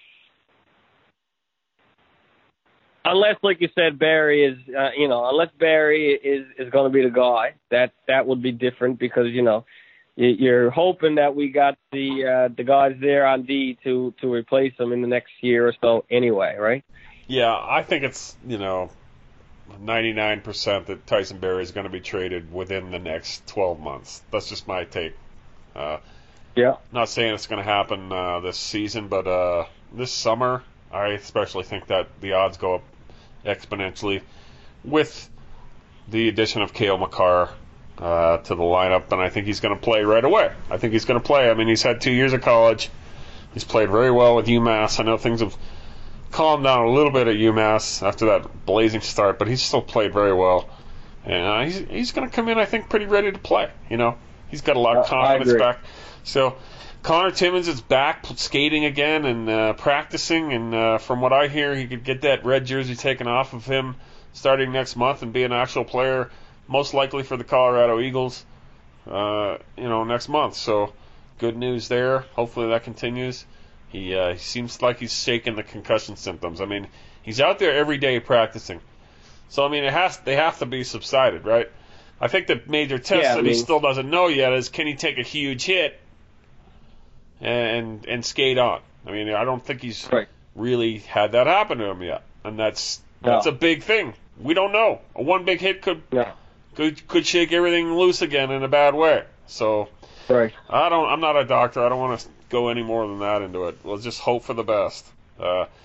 Unless, like you said, Barrie is, uh, you know, unless Barrie is, is going to be the guy, that that would be different because, you know, you're hoping that we got the uh, the guys there on D to, to replace them in the next year or so anyway, right? Yeah, I think it's, you know, ninety-nine percent that Tyson Barrie is going to be traded within the next twelve months. That's just my take. Uh, yeah. Not saying it's going to happen uh, this season, but uh, this summer, I especially think that the odds go up exponentially with the addition of Cale Makar uh, to the lineup, and I think he's going to play right away. I think he's going to play. I mean, he's had two years of college. He's played very well with UMass. I know things have calmed down a little bit at UMass after that blazing start, but he's still played very well. And uh, he's he's going to come in, I think, pretty ready to play. You know, he's got a lot of Uh, I confidence agree. back. So Connor Timmins is back skating again and uh, practicing, and uh, from what I hear, he could get that red jersey taken off of him starting next month and be an actual player, most likely for the Colorado Eagles, uh, you know, next month. So good news there. Hopefully that continues. He, uh, he seems like he's shaking the concussion symptoms. I mean, he's out there every day practicing. So, I mean, it has they have to be subsided, right? I think the major test Yeah, I that he mean- still doesn't know yet is can he take a huge hit and and skate on. I mean, I don't think he's Right. really had that happen to him yet, and that's No. that's a big thing. We don't know. A one big hit could No. could could shake everything loose again in a bad way. So Right. I don't. I'm not a doctor. I don't want to go any more than that into it. Let's just hope for the best. Uh,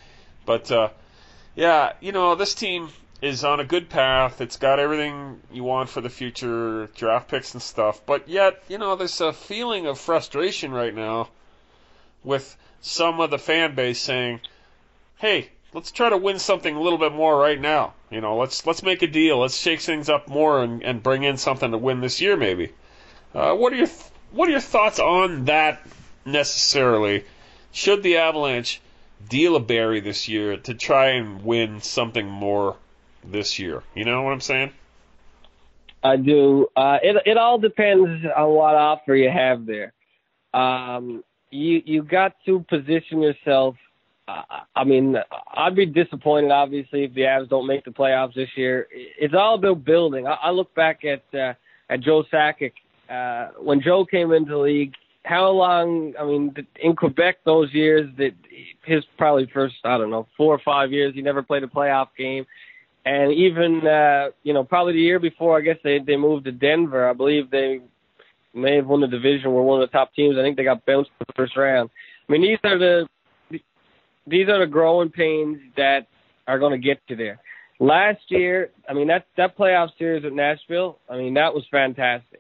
But, uh, yeah, you know, this team is on a good path. It's got everything you want for the future, draft picks and stuff. But yet, you know, there's a feeling of frustration right now with some of the fan base saying, hey, let's try to win something a little bit more right now. You know, let's let's make a deal. Let's shake things up more and, and bring in something to win this year, maybe. Uh, what are your what are your thoughts on that necessarily? Should the Avalanche deal a Barrie this year to try and win something more this year? You know what I'm saying? I do. Uh, it it all depends on what offer you have there. Um, you you got to position yourself. Uh, I mean, I'd be disappointed, obviously, if the Avs don't make the playoffs this year. It's all about building. I, I look back at uh, at Joe Sakic. Uh, when Joe came into the league, how long, I mean, in Quebec those years, that his probably first, I don't know, four or five years, he never played a playoff game. And even, uh, you know, probably the year before, I guess they, they moved to Denver. I believe they may have won the division, were one of the top teams. I think they got bounced in the first round. I mean, these are the these are the growing pains that are going to get you there. Last year, I mean, that, that playoff series with Nashville, I mean, that was fantastic.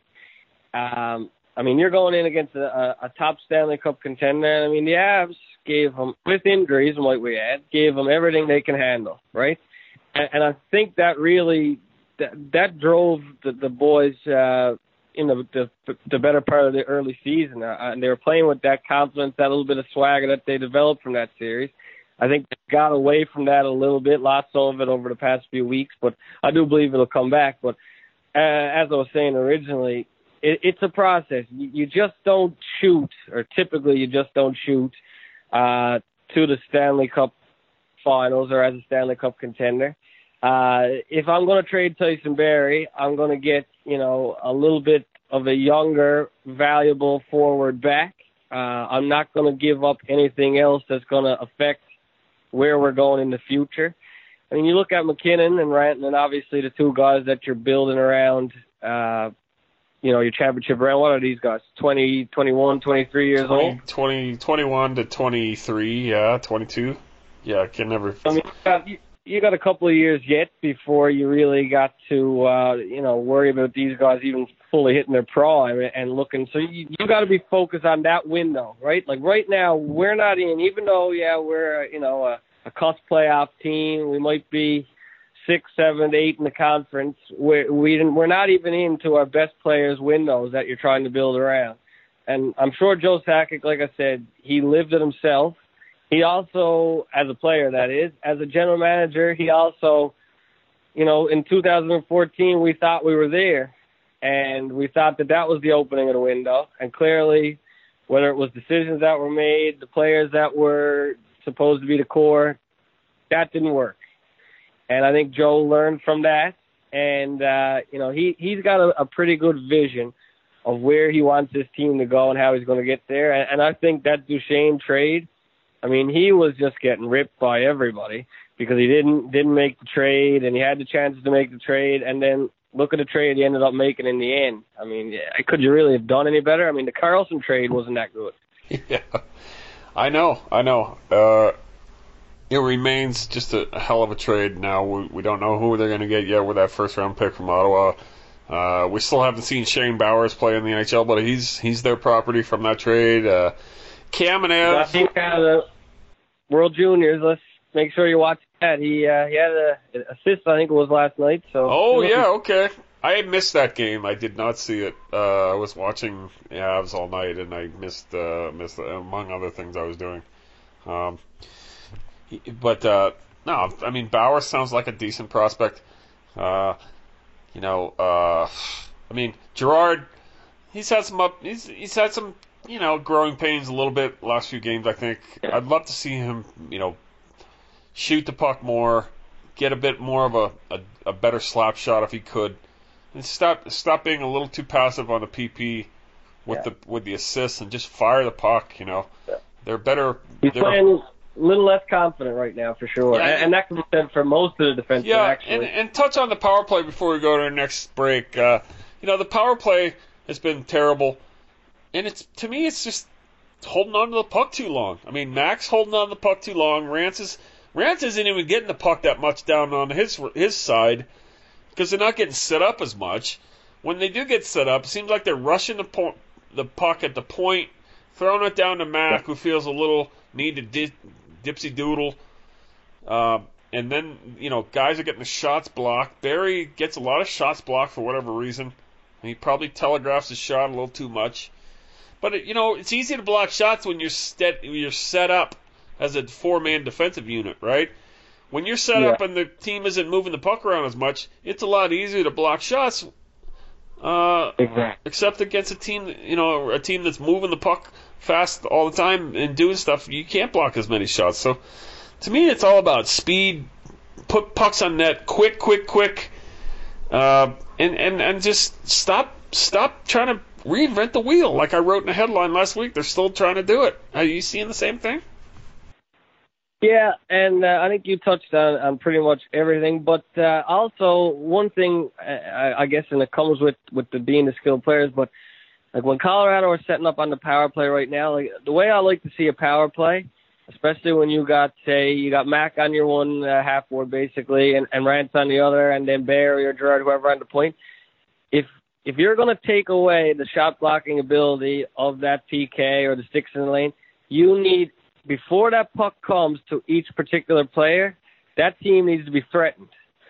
Um, I mean, you're going in against a, a top Stanley Cup contender. I mean, the Avs gave them, with injuries and what we had, gave them everything they can handle, right? And, and I think that really, that, that drove the, the boys uh, in the, the the better part of the early season. Uh, and they were playing with that confidence, that little bit of swagger that they developed from that series. I think they got away from that a little bit, lost some of it over the past few weeks, but I do believe it'll come back. But uh, as I was saying originally, it, it's a process. You, you just don't shoot, or typically you just don't shoot uh, to the Stanley Cup finals or as a Stanley Cup contender. Uh, if I'm going to trade Tyson Barrie, I'm going to get, you know, a little bit of a younger, valuable forward back. Uh, I'm not going to give up anything else that's going to affect where we're going in the future. I mean, you look at McKinnon and Rantanen, and obviously the two guys that you're building around, uh, you know, your championship round. What are these guys? twenty, twenty-one, twenty-three years twenty, old? twenty, twenty-one to twenty-three, yeah, twenty-two. Yeah, I can never... I mean, you got, you, you got a couple of years yet before you really got to, uh, you know, worry about these guys even fully hitting their prime and looking. So you, you got to be focused on that window, right? Like right now, we're not in, even though, yeah, we're, you know, a, a cusp playoff team. We might be six, seven, eight in the conference. We're, we didn't, we're not even into our best players' windows that you're trying to build around. And I'm sure Joe Sakic, like I said, he lived it himself. He also, as a player, that is, as a general manager, he also, you know, in two thousand fourteen, we thought we were there. And we thought that that was the opening of the window. And clearly, whether it was decisions that were made, the players that were supposed to be the core, that didn't work. And I think Joe learned from that. And, uh, you know, he, he's got a, a pretty good vision of where he wants his team to go and how he's going to get there. And, and I think that Duchesne trade, I mean, he was just getting ripped by everybody because he didn't didn't make the trade, and he had the chances to make the trade, and then look at the trade he ended up making in the end. I mean, could you really have done any better? I mean, the Carlson trade wasn't that good. Yeah, I know, I know. Uh, it remains just a, a hell of a trade now. We, we don't know who they're going to get yet with that first-round pick from Ottawa. Uh, we still haven't seen Shane Bowers play in the N H L, but he's he's their property from that trade. Uh, Kamenev. I think uh, the World Juniors, let's make sure you watch that. He uh, he had a, an assist, I think it was last night. So. Oh, yeah, okay. I missed that game. I did not see it. Uh, I was watching the Avs all night, and I missed, uh, missed uh, among other things I was doing. Um, he, but, uh, no, I mean, Bauer sounds like a decent prospect. Uh, you know, uh, I mean, Gerard, he's had some up, he's he's had some, you know, growing pains a little bit last few games, I think. I'd love to see him, you know, shoot the puck more, get a bit more of a, a, a better slap shot if he could, and stop stop being a little too passive on the P P with yeah. the with the assists and just fire the puck. You know, yeah. they're better. He's they're, playing a little less confident right now for sure, yeah, and, and that can be said for most of the defensemen. Yeah, actually. And, and touch on the power play before we go to our next break. Uh, you know, the power play has been terrible, and it's to me it's just holding on to the puck too long. I mean, Max holding on to the puck too long. Rance is Rance isn't even getting the puck that much down on his his side because they're not getting set up as much. When they do get set up, it seems like they're rushing the po- the puck at the point, throwing it down to Mac, who feels a little need to di- dipsy doodle. Uh, and then, you know, guys are getting the shots blocked. Barry gets a lot of shots blocked for whatever reason. He probably telegraphs his shot a little too much. But, it, you know, it's easy to block shots when you're, set, you're set up as a four-man defensive unit, right? When you're set yeah. up and the team isn't moving the puck around as much, it's a lot easier to block shots. Uh, exactly. Except against a team, you know, a team that's moving the puck fast all the time and doing stuff, you can't block as many shots. So, to me, it's all about speed, put pucks on net, quick, quick, quick, uh, and, and and just stop stop trying to reinvent the wheel. Like I wrote in a headline last week, they're still trying to do it. Are you seeing the same thing? Yeah, and uh, I think you touched on, on pretty much everything. But uh, also, one thing, I, I guess, and it comes with, with the being the skilled players, but like when Colorado are setting up on the power play right now, like the way I like to see a power play, especially when you got, say, you got Mac on your one uh, half board, basically, and, and Rance on the other, and then Barry or Gerard, whoever on the point, if if you're going to take away the shot blocking ability of that P K or the sticks in the lane, you need, before that puck comes to each particular player, that team needs to be threatened.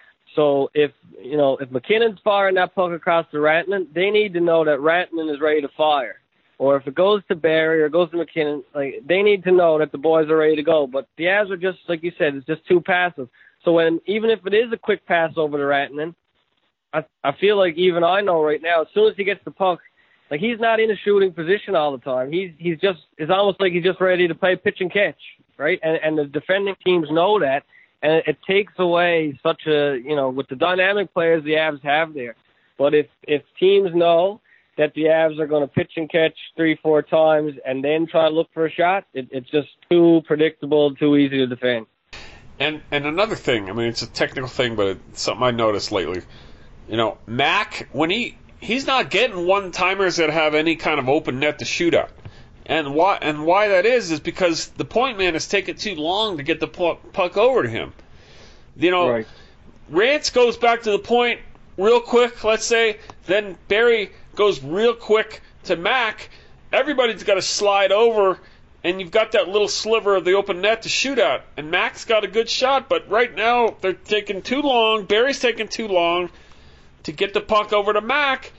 So if, you know, if McKinnon's firing that puck across to Rantanen, they need to know that Rantanen is ready to fire. Or if it goes to Barry or goes to McKinnon, like they need to know that the boys are ready to go. But the Avs are just, like you said, it's just too passive. So when, even if it is a quick pass over to Rantanen, I, I feel like even I know right now, as soon as he gets the puck, like he's not in a shooting position all the time. He's he's just it's almost like he's just ready to play pitch and catch, right? And and the defending teams know that, and it, it takes away such a, you know, with the dynamic players the Avs have there. But if if teams know that the Avs are going to pitch and catch three, four times and then try to look for a shot, it, it's just too predictable, too easy to defend. And and another thing, I mean, it's a technical thing, but it's something I noticed lately. You know, Mac, when he he's not getting one-timers that have any kind of open net to shoot at. And why and why that is is because the point man is taking too long to get the puck over to him. You know, right. Rance goes back to the point real quick, let's say, then Barry goes real quick to Mac. Everybody's got to slide over, and you've got that little sliver of the open net to shoot at. And Mac's got a good shot, but right now they're taking too long. Barry's taking too long to get the puck over to Mac,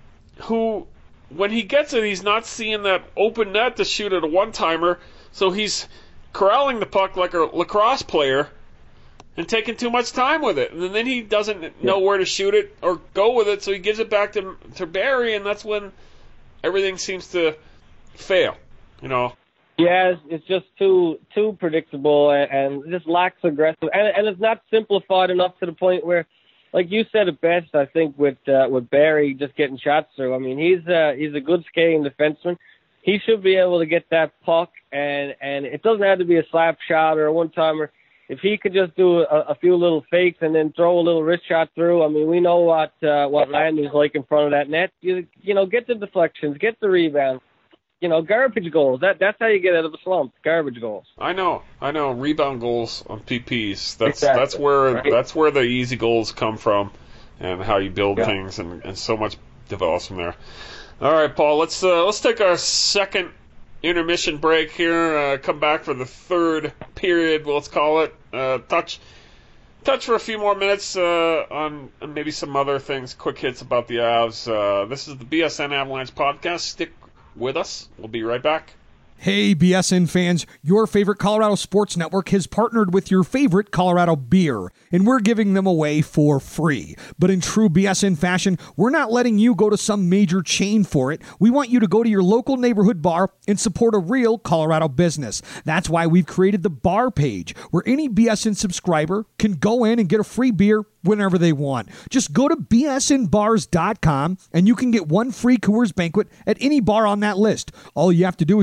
who, when he gets it, he's not seeing that open net to shoot at a one-timer, so he's corralling the puck like a lacrosse player and taking too much time with it. And then he doesn't know where to shoot it or go with it, so he gives it back to, to Barry, and that's when everything seems to fail, you know. Yeah, it's, it's just too too predictable and, and just lacks aggressive. And, and it's not simplified enough to the point where, like you said it best, I think, with uh, with Barry just getting shots through. I mean, he's uh, he's a good skating defenseman. He should be able to get that puck, and, and it doesn't have to be a slap shot or a one-timer. If he could just do a, a few little fakes and then throw a little wrist shot through, I mean, we know what uh, what Landry's like in front of that net. You, you know, get the deflections, get the rebound. You know, garbage goals. That that's how you get out of a slump. Garbage goals. I know, I know. Rebound goals on P Ps. That's exactly. that's where right. that's where the easy goals come from, and how you build yeah. things, and, and so much develops from there. All right, Paul. Let's uh, let's take our second intermission break here. Uh, come back for the third period. Let's call it. Uh, touch touch for a few more minutes uh, on maybe some other things. Quick hits about the Avs. Uh, this is the B S N Avalanche podcast. Stick with us. We'll be right back. Hey, B S N fans, your favorite Colorado Sports Network has partnered with your favorite Colorado beer, and we're giving them away for free. But in true B S N fashion, we're not letting you go to some major chain for it. We want you to go to your local neighborhood bar and support a real Colorado business. That's why we've created the bar page, where any B S N subscriber can go in and get a free beer whenever they want. Just go to B S N bars dot com and you can get one free Coors Banquet at any bar on that list. All you have to do is show the bar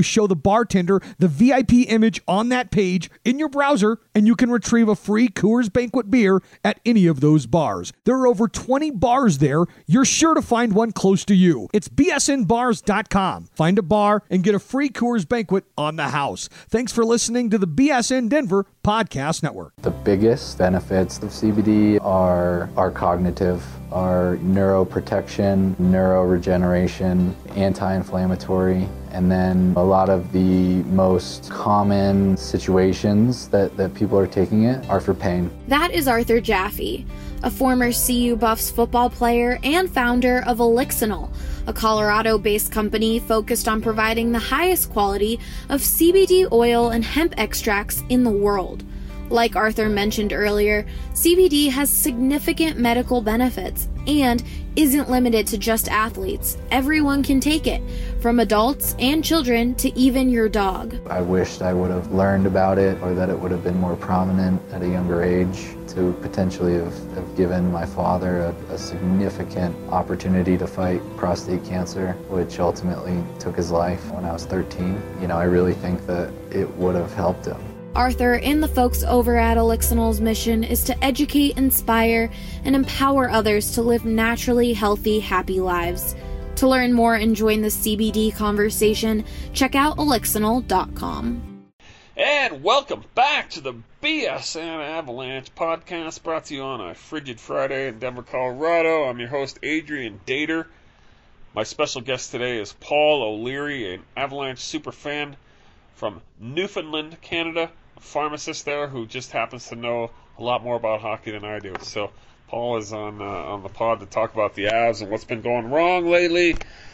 bartender the V I P image on that page in your browser, and you can retrieve a free Coors Banquet beer at any of those bars. There are over twenty bars there. You're sure to find one close to you. It's B S N bars dot com. Find a bar and get a free Coors Banquet on the house. Thanks for listening to the B S N Denver Podcast Network. The biggest benefits of C B D are, are cognitive, are neuroprotection, neuroregeneration, anti-inflammatory, and then a lot of the most common situations that, that people are taking it are for pain. That is Arthur Jaffe, a former C U Buffs football player and founder of Elixinol, a Colorado-based company focused on providing the highest quality of C B D oil and hemp extracts in the world. Like Arthur mentioned earlier, C B D has significant medical benefits and isn't limited to just athletes. Everyone can take it, from adults and children to even your dog. I wished I would have learned about it, or that it would have been more prominent at a younger age, to potentially have, have given my father a, a significant opportunity to fight prostate cancer, which ultimately took his life when I was thirteen. You know, I really think that it would have helped him. Arthur and the folks over at Elixinol's mission is to educate, inspire, and empower others to live naturally healthy, happy lives. To learn more and join the C B D conversation, check out elixinol dot com. And welcome back to the B S N Avalanche podcast, brought to you on a frigid Friday in Denver, Colorado. I'm your host, Adrian Dater. My special guest today is Paul O'Leary, an Avalanche superfan from Newfoundland, Canada, a pharmacist there who just happens to know a lot more about hockey than I do. So Paul is on uh, on the pod to talk about the Avs and what's been going wrong lately.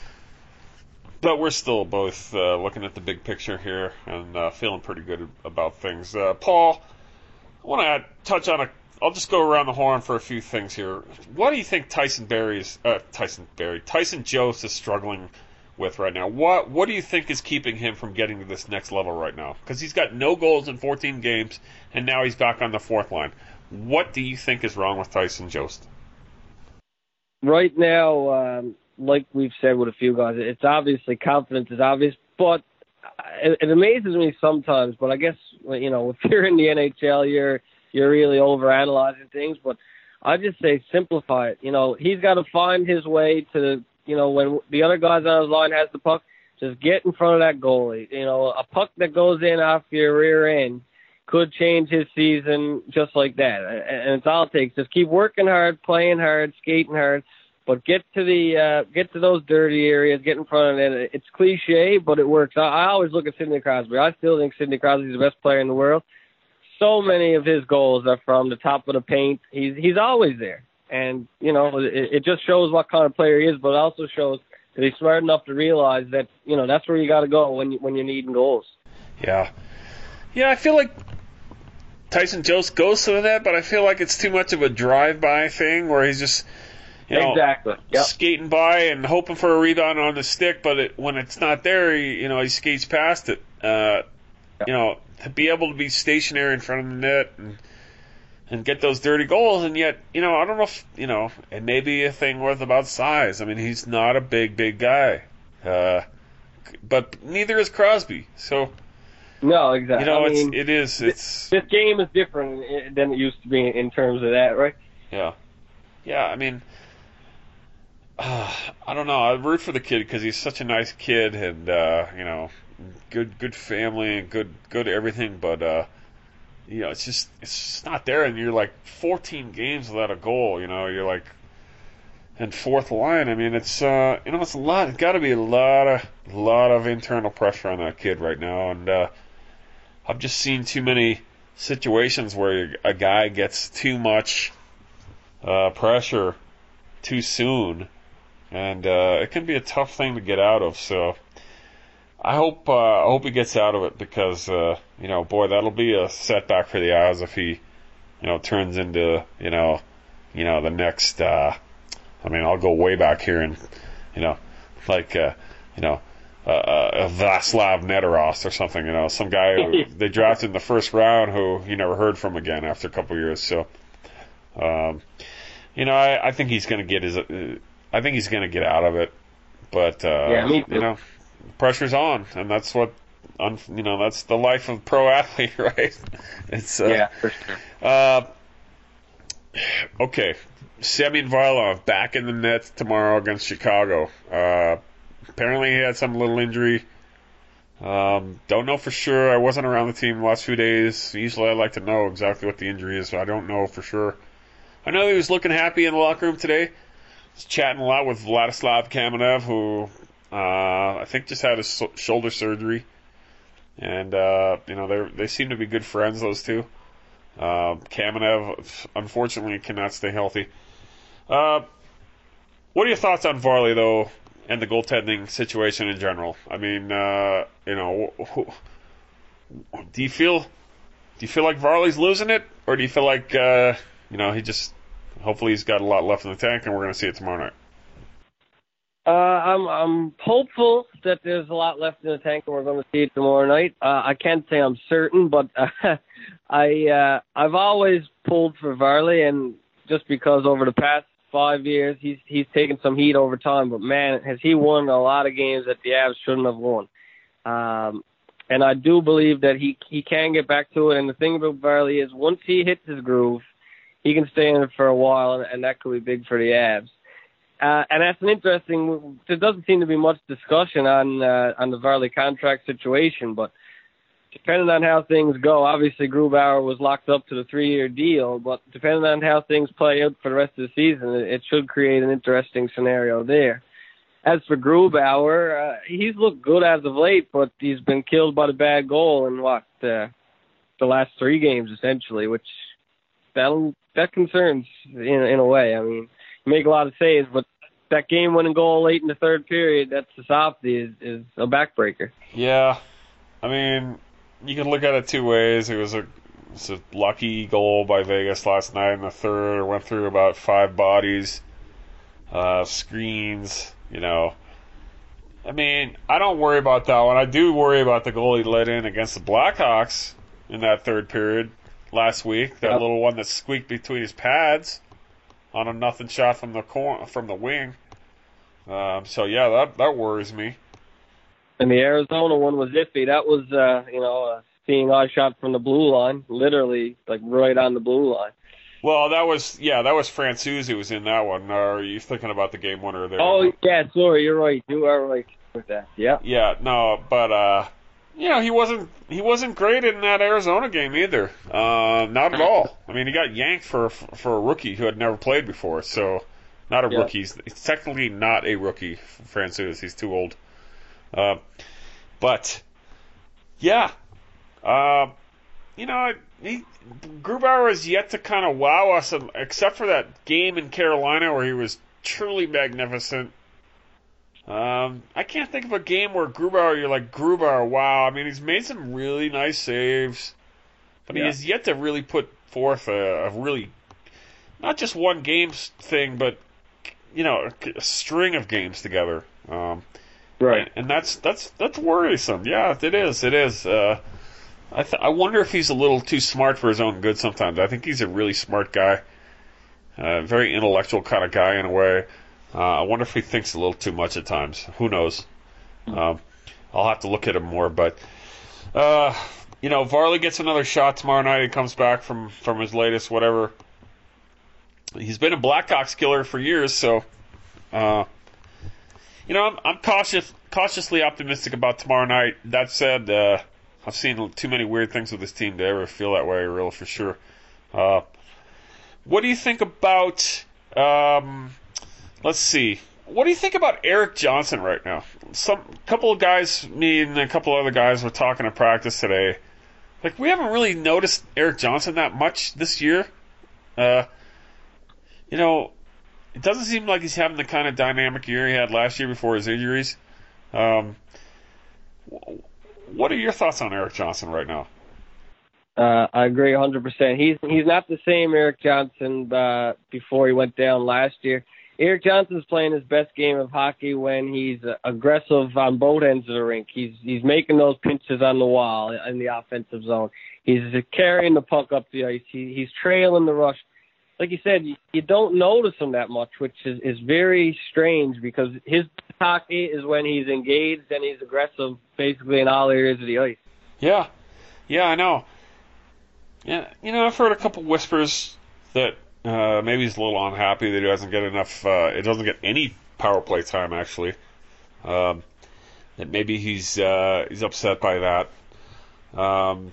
But we're still both uh, looking at the big picture here and uh, feeling pretty good about things. Uh, Paul, I want to touch on a. I'll just go around the horn for a few things here. What do you think Tyson Barrie's uh, Tyson Barrie, Tyson Jost is struggling with right now? What What do you think is keeping him from getting to this next level right now? Because he's got no goals in fourteen games, and now he's back on the fourth line. What do you think is wrong with Tyson Jost? Right now, um, like we've said with a few guys, it's obviously confidence is obvious, but it, it amazes me sometimes. But I guess, you know, if you're in the N H L, you're you're really overanalyzing things. But I just say simplify it. You know, he's got to find his way to, you know, when the other guys on his line has the puck, just get in front of that goalie. You know, a puck that goes in off your rear end could change his season just like that. And it's all it takes. Just keep working hard, playing hard, skating hard, but get to the uh, get to those dirty areas, get in front of it. It's cliche, but it works. I, I always look at Sidney Crosby. I still think Sidney Crosby is the best player in the world. So many of his goals are from the top of the paint. He's he's always there. And, you know, it, it just shows what kind of player he is, but it also shows that he's smart enough to realize that, you know, that's where you got to go when, you, when you're needing goals. Yeah. Yeah, I feel like Tyson Jost goes to that, but I feel like it's too much of a drive-by thing where he's just, you know, exactly. Yep. skating by and hoping for a rebound on the stick, but it, when it's not there, he, you know, he skates past it. Uh, yep. You know, to be able to be stationary in front of the net and and get those dirty goals, and yet, you know, I don't know if, you know, it may be a thing worth about size. I mean, he's not a big, big guy. Uh, but neither is Crosby. So, no, exactly. You know, I it's, mean, it is. It's, this game is different than it used to be in terms of that, right? Yeah. Yeah, I mean, uh, I don't know. I root for the kid because he's such a nice kid and, uh, you know, good good family and good, good everything, but, uh, you know, it's just it's just not there, and you're like fourteen games without a goal. You know, you're like, and fourth line. I mean, it's uh, you know, it's a lot. It's got to be a lot of lot of internal pressure on that kid right now, and uh, I've just seen too many situations where a guy gets too much uh, pressure too soon, and uh, it can be a tough thing to get out of. So I hope uh, I hope he gets out of it because uh, you know, boy, that'll be a setback for the Avs if he, you know, turns into you know, you know the next. Uh, I mean, I'll go way back here and you know, like uh, you know, uh, uh, Václav Neteros or something. You know, some guy who they drafted in the first round who you never heard from again after a couple of years. So, um, you know, I, I think he's going to get his. Uh, I think he's going to get out of it, but uh, yeah, me too. you know. Pressure's on, and that's what un, you know, that's the life of pro athlete, right? It's uh, yeah, for sure. Uh, okay, Semyon Varlamov back in the net tomorrow against Chicago. Uh, apparently he had some little injury. Um, don't know for sure. I wasn't around the team the last few days. Usually I like to know exactly what the injury is, so I don't know for sure. I know he was looking happy in the locker room today. He was chatting a lot with Vladislav Kamenev, who uh, I think just had his so- shoulder surgery. And, uh, you know, they they seem to be good friends, those two. Uh, Kamenev, unfortunately, cannot stay healthy. Uh, what are your thoughts on Varley, though, and the goaltending situation in general? I mean, uh, you know, who, do you feel do you feel like Varley's losing it, or do you feel like uh, you know he just hopefully he's got a lot left in the tank, and we're going to see it tomorrow night? Uh, I'm I'm hopeful that there's a lot left in the tank, and we're going to see it tomorrow night. Uh, I can't say I'm certain, but uh, I uh, I've always pulled for Varley, and just because over the past five years he's he's taken some heat over time, but man, has he won a lot of games that the Avs shouldn't have won. Um, and I do believe that he he can get back to it. And the thing about Varley is once he hits his groove, he can stay in it for a while, and, and that could be big for the Avs. Uh, and that's an interesting. There doesn't seem to be much discussion on uh, on the Varley contract situation, but depending on how things go, obviously Grubauer was locked up to the three-year deal, but depending on how things play out for the rest of the season, it, it should create an interesting scenario there. As for Grubauer, uh, he's looked good as of late, but he's been killed by the bad goal in what uh, the last three games essentially, which that that concerns in in a way. I mean. Make a lot of saves, but that game-winning goal late in the third period, that's the softy, is, is a backbreaker. Yeah. I mean, you can look at it two ways. It was a, it was a lucky goal by Vegas last night in the third. It went through about five bodies, uh, screens, you know. I mean, I don't worry about that one. I do worry about the goal he let in against the Blackhawks in that third period last week, that yep. little one that squeaked between his pads on a nothing shot from the cor- from the wing. Um, so yeah, that that worries me. And the Arizona one was iffy. That was uh, you know a seeing eye shot from the blue line, literally like right on the blue line. Well, that was yeah, that was Francouz who was in that one. Or are you thinking about the game winner there? Oh yeah, sorry, you're right. You are right with that. Yeah. Yeah, no, but uh, you know he wasn't he wasn't great in that Arizona game either. Uh, not at all. I mean, he got yanked for for a rookie who had never played before. So, not a yeah. rookie. He's, he's technically not a rookie. Francouz, he's too old. Uh, but yeah, uh, you know, he, Grubauer has yet to kind of wow us, except for that game in Carolina where he was truly magnificent. Um, I can't think of a game where Grubauer, you're like, Grubauer, wow. I mean, he's made some really nice saves, but yeah. he has yet to really put forth a, a really, not just one game thing, but, you know, a, a string of games together. Um, right. And, and that's that's that's worrisome. Yeah, it is. It is. Uh, I th- I wonder if he's a little too smart for his own good sometimes. I think he's a really smart guy, uh, very intellectual kind of guy in a way. Uh, I wonder if he thinks a little too much at times. Who knows? Um, I'll have to look at him more. But, uh, you know, Varley gets another shot tomorrow night. He comes back from, from his latest whatever. He's been a Blackhawks killer for years, so, uh, you know, I'm, I'm cautious, cautiously optimistic about tomorrow night. That said, uh, I've seen too many weird things with this team to ever feel that way, real for sure. Uh, what do you think about... Um, Let's see. What do you think about Erik Johnson right now? Some couple of guys, me and a couple other guys, were talking in practice today. Like, we haven't really noticed Erik Johnson that much this year. Uh, you know, it doesn't seem like he's having the kind of dynamic year he had last year before his injuries. Um, what are your thoughts on Erik Johnson right now? Uh, I agree one hundred percent. He's he's not the same Erik Johnson uh, before he went down last year. Erik Johnson's playing his best game of hockey when he's aggressive on both ends of the rink. He's he's making those pinches on the wall in the offensive zone. He's carrying the puck up the ice. He, he's trailing the rush. like you said, you, you don't notice him that much, which is, is very strange because his hockey is when he's engaged and he's aggressive basically in all areas of the ice. Yeah. Yeah, I know. Yeah, you know, I've heard a couple whispers that uh, maybe he's a little unhappy that he doesn't get enough, uh, it doesn't get any power play time, actually. Um, that maybe he's uh, he's upset by that. Um,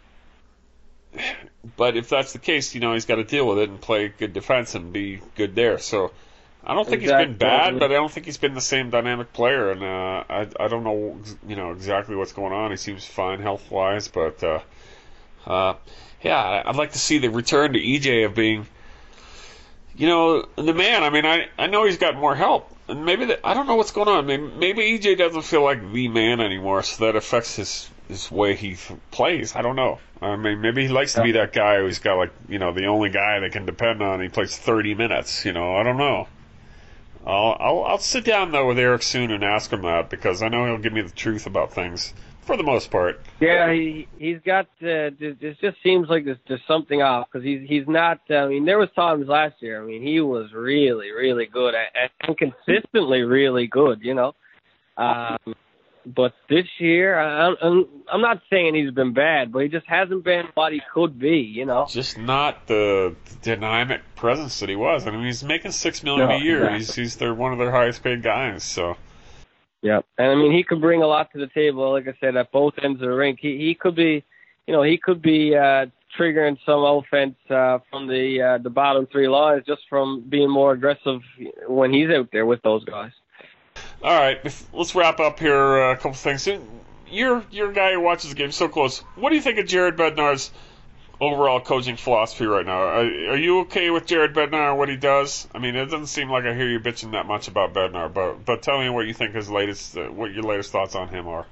but if that's the case, you know, he's got to deal with it and play good defense and be good there. So I don't think exactly. he's been bad, but I don't think he's been the same dynamic player. And uh, I I don't know, you know, exactly what's going on. He seems fine health-wise, but uh, uh, yeah, I'd like to see the return to E J of being, you know, the man. I mean, I, I know he's got more help. And maybe the, I don't know what's going on. Maybe, maybe E J doesn't feel like the man anymore, so that affects his his way he plays. I don't know. I mean, maybe he likes to be that guy who's got, like, you know, the only guy they can depend on. He plays thirty minutes. You know, I don't know. I'll I'll, I'll sit down though with Eric soon and ask him that because I know he'll give me the truth about things for the most part. Yeah, he he's got. Uh, it just seems like there's, there's something off because he's he's not. Uh, I mean, there was times last year. I mean, he was really really good at, and consistently really good. You know, um, but this year I, I'm I'm not saying he's been bad, but he just hasn't been what he could be. You know, just not the dynamic presence that he was. I mean, he's making six million no, a year. Exactly. He's he's their one of their highest paid guys. So. Yeah, and I mean he could bring a lot to the table. Like I said, at both ends of the rink, he he could be, you know, he could be uh, triggering some offense uh, from the uh, the bottom three lines just from being more aggressive when he's out there with those guys. All right, let's wrap up here. Uh, a couple things. You're you're a guy who watches the game so close. What do you think of Jared Bednar's overall coaching philosophy right now? Are, are you okay with Jared Bednar and what he does? I mean, it doesn't seem like I hear you bitching that much about Bednar, but but tell me what you think his latest, uh, what your latest thoughts on him are.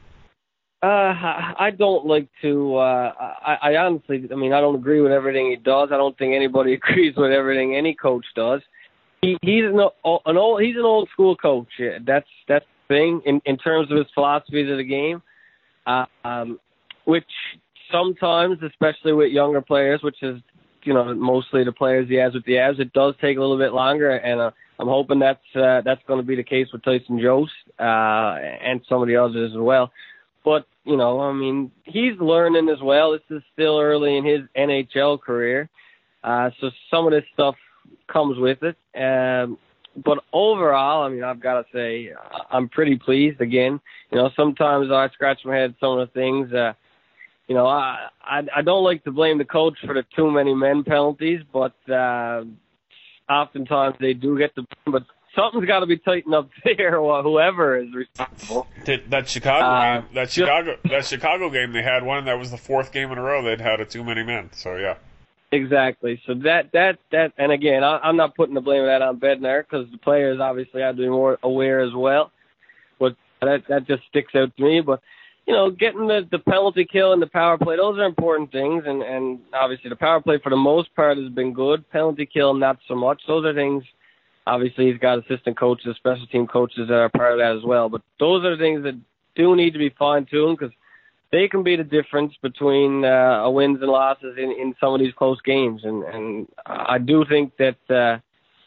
Uh, I don't like to. Uh, I, I honestly, I mean, I don't agree with everything he does. I don't think anybody agrees with everything any coach does. He, he's an, an old, he's an old school coach. Yeah, that's that's the thing in in terms of his philosophies of the game, uh, um, which. Sometimes, especially with younger players, which is, you know, mostly the players he has with the Avs, it does take a little bit longer, and uh, I'm hoping that's uh, that's going to be the case with Tyson Jost uh, and some of the others as well. But, you know, I mean, he's learning as well. This is still early in his N H L career, uh, so some of this stuff comes with it. Um, but overall, I mean, I've got to say I'm pretty pleased. Again, you know, sometimes I scratch my head at some of the things. Uh, You know, I, I I don't like to blame the coach for the too many men penalties, but uh, oftentimes they do get the. But something's got to be tightened up there, or whoever is responsible. That, that Chicago uh, game, that Chicago, that Chicago game, they had one that was the fourth game in a row they'd had a too many men. So yeah. Exactly. So that that that, and again, I, I'm not putting the blame of that on Bednar because the players obviously have to be more aware as well. But that that just sticks out to me, but. You know, getting the, the penalty kill and the power play, those are important things. And, and obviously the power play for the most part has been good. Penalty kill, not so much. Those are things, obviously he's got assistant coaches, special team coaches that are part of that as well. But those are the things that do need to be fine-tuned because they can be the difference between uh, wins and losses in, in some of these close games. And, and I do think that uh,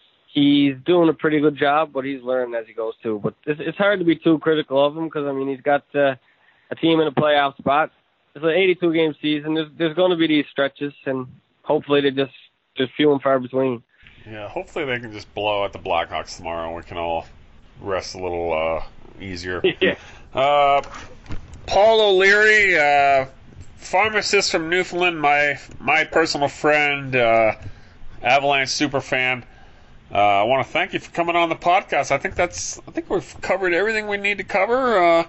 he's doing a pretty good job, but he's learning as he goes too. But it's, it's hard to be too critical of him because, I mean, he's got uh, – a team in a playoff spot. It's an eighty-two game season. There's there's going to be these stretches, and hopefully they just just few and far between. Yeah, hopefully they can just blow out the Blackhawks tomorrow, and we can all rest a little uh, easier. yeah. Uh, Paul O'Leary, uh, pharmacist from Newfoundland, my my personal friend, uh, Avalanche super fan. Uh, I want to thank you for coming on the podcast. I think that's I think we've covered everything we need to cover. Uh,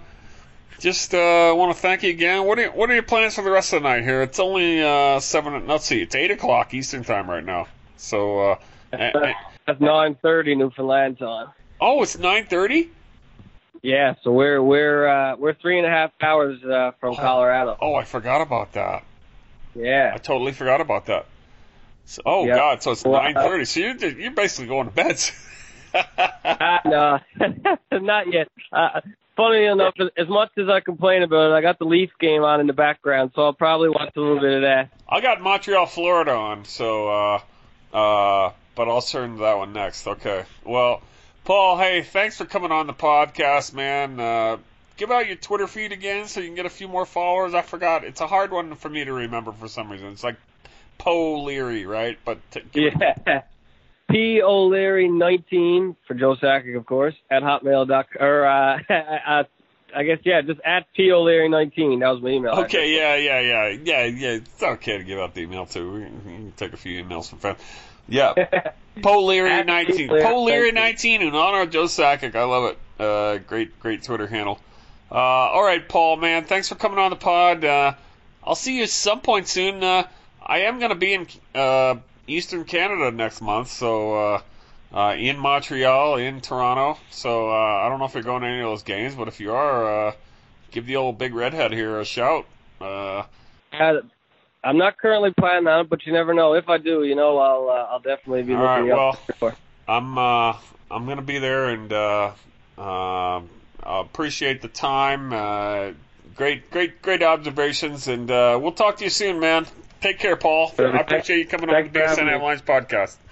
Just uh, want to thank you again. What are you, what are your plans for the rest of the night here? It's only uh, seven. Let's see, it's eight o'clock Eastern time right now. So uh, that's nine thirty Newfoundland time. Oh, it's nine thirty. Yeah, so we're we're uh, we're three and a half hours uh, from Colorado. Oh, I forgot about that. Yeah, I totally forgot about that. So, oh yep. God, so it's well, nine thirty. So you're you're basically going to bed. uh, no, not yet. Uh, Funny enough, as much as I complain about it, I got the Leaf game on in the background, so I'll probably watch a little bit of that. I got Montreal, Florida on, so uh, Uh, but I'll turn to that one next. Okay. Well, Paul, hey, thanks for coming on the podcast, man. Uh, give out your Twitter feed again so you can get a few more followers. I forgot. It's a hard one for me to remember for some reason. It's like Poe Leary, right? But t- yeah. P. O'Leary nineteen for Joe Sakic, of course, at hotmail dot com. Or, uh, uh, I guess, yeah, just at P. O'Leary nineteen. That was my email. Okay, yeah, yeah, yeah. Yeah, yeah. It's okay to give out the email, too. We can, we can take a few emails from fans. Yeah. Poe Leary nineteen. Poe Leary nineteen in honor of Joe Sakic. I love it. Uh, great, great Twitter handle. Uh, all right, Paul, man. Thanks for coming on the pod. Uh, I'll see you at some point soon. Uh, I am going to be in uh, Eastern Canada next month, so uh, uh, in Montreal, in Toronto. So uh, I don't know if you're going to any of those games, but if you are, uh, give the old big redhead here a shout. Uh, Uh, I'm not currently planning on it, but you never know. If I do, you know, I'll uh, I'll definitely be all looking right, up. well, I'm uh, I'm going to be there, and uh, uh, I appreciate the time. Uh, great, great, great observations, and uh, we'll talk to you soon, man. Take care, Paul. I appreciate you coming on the B S N Avalanche podcast.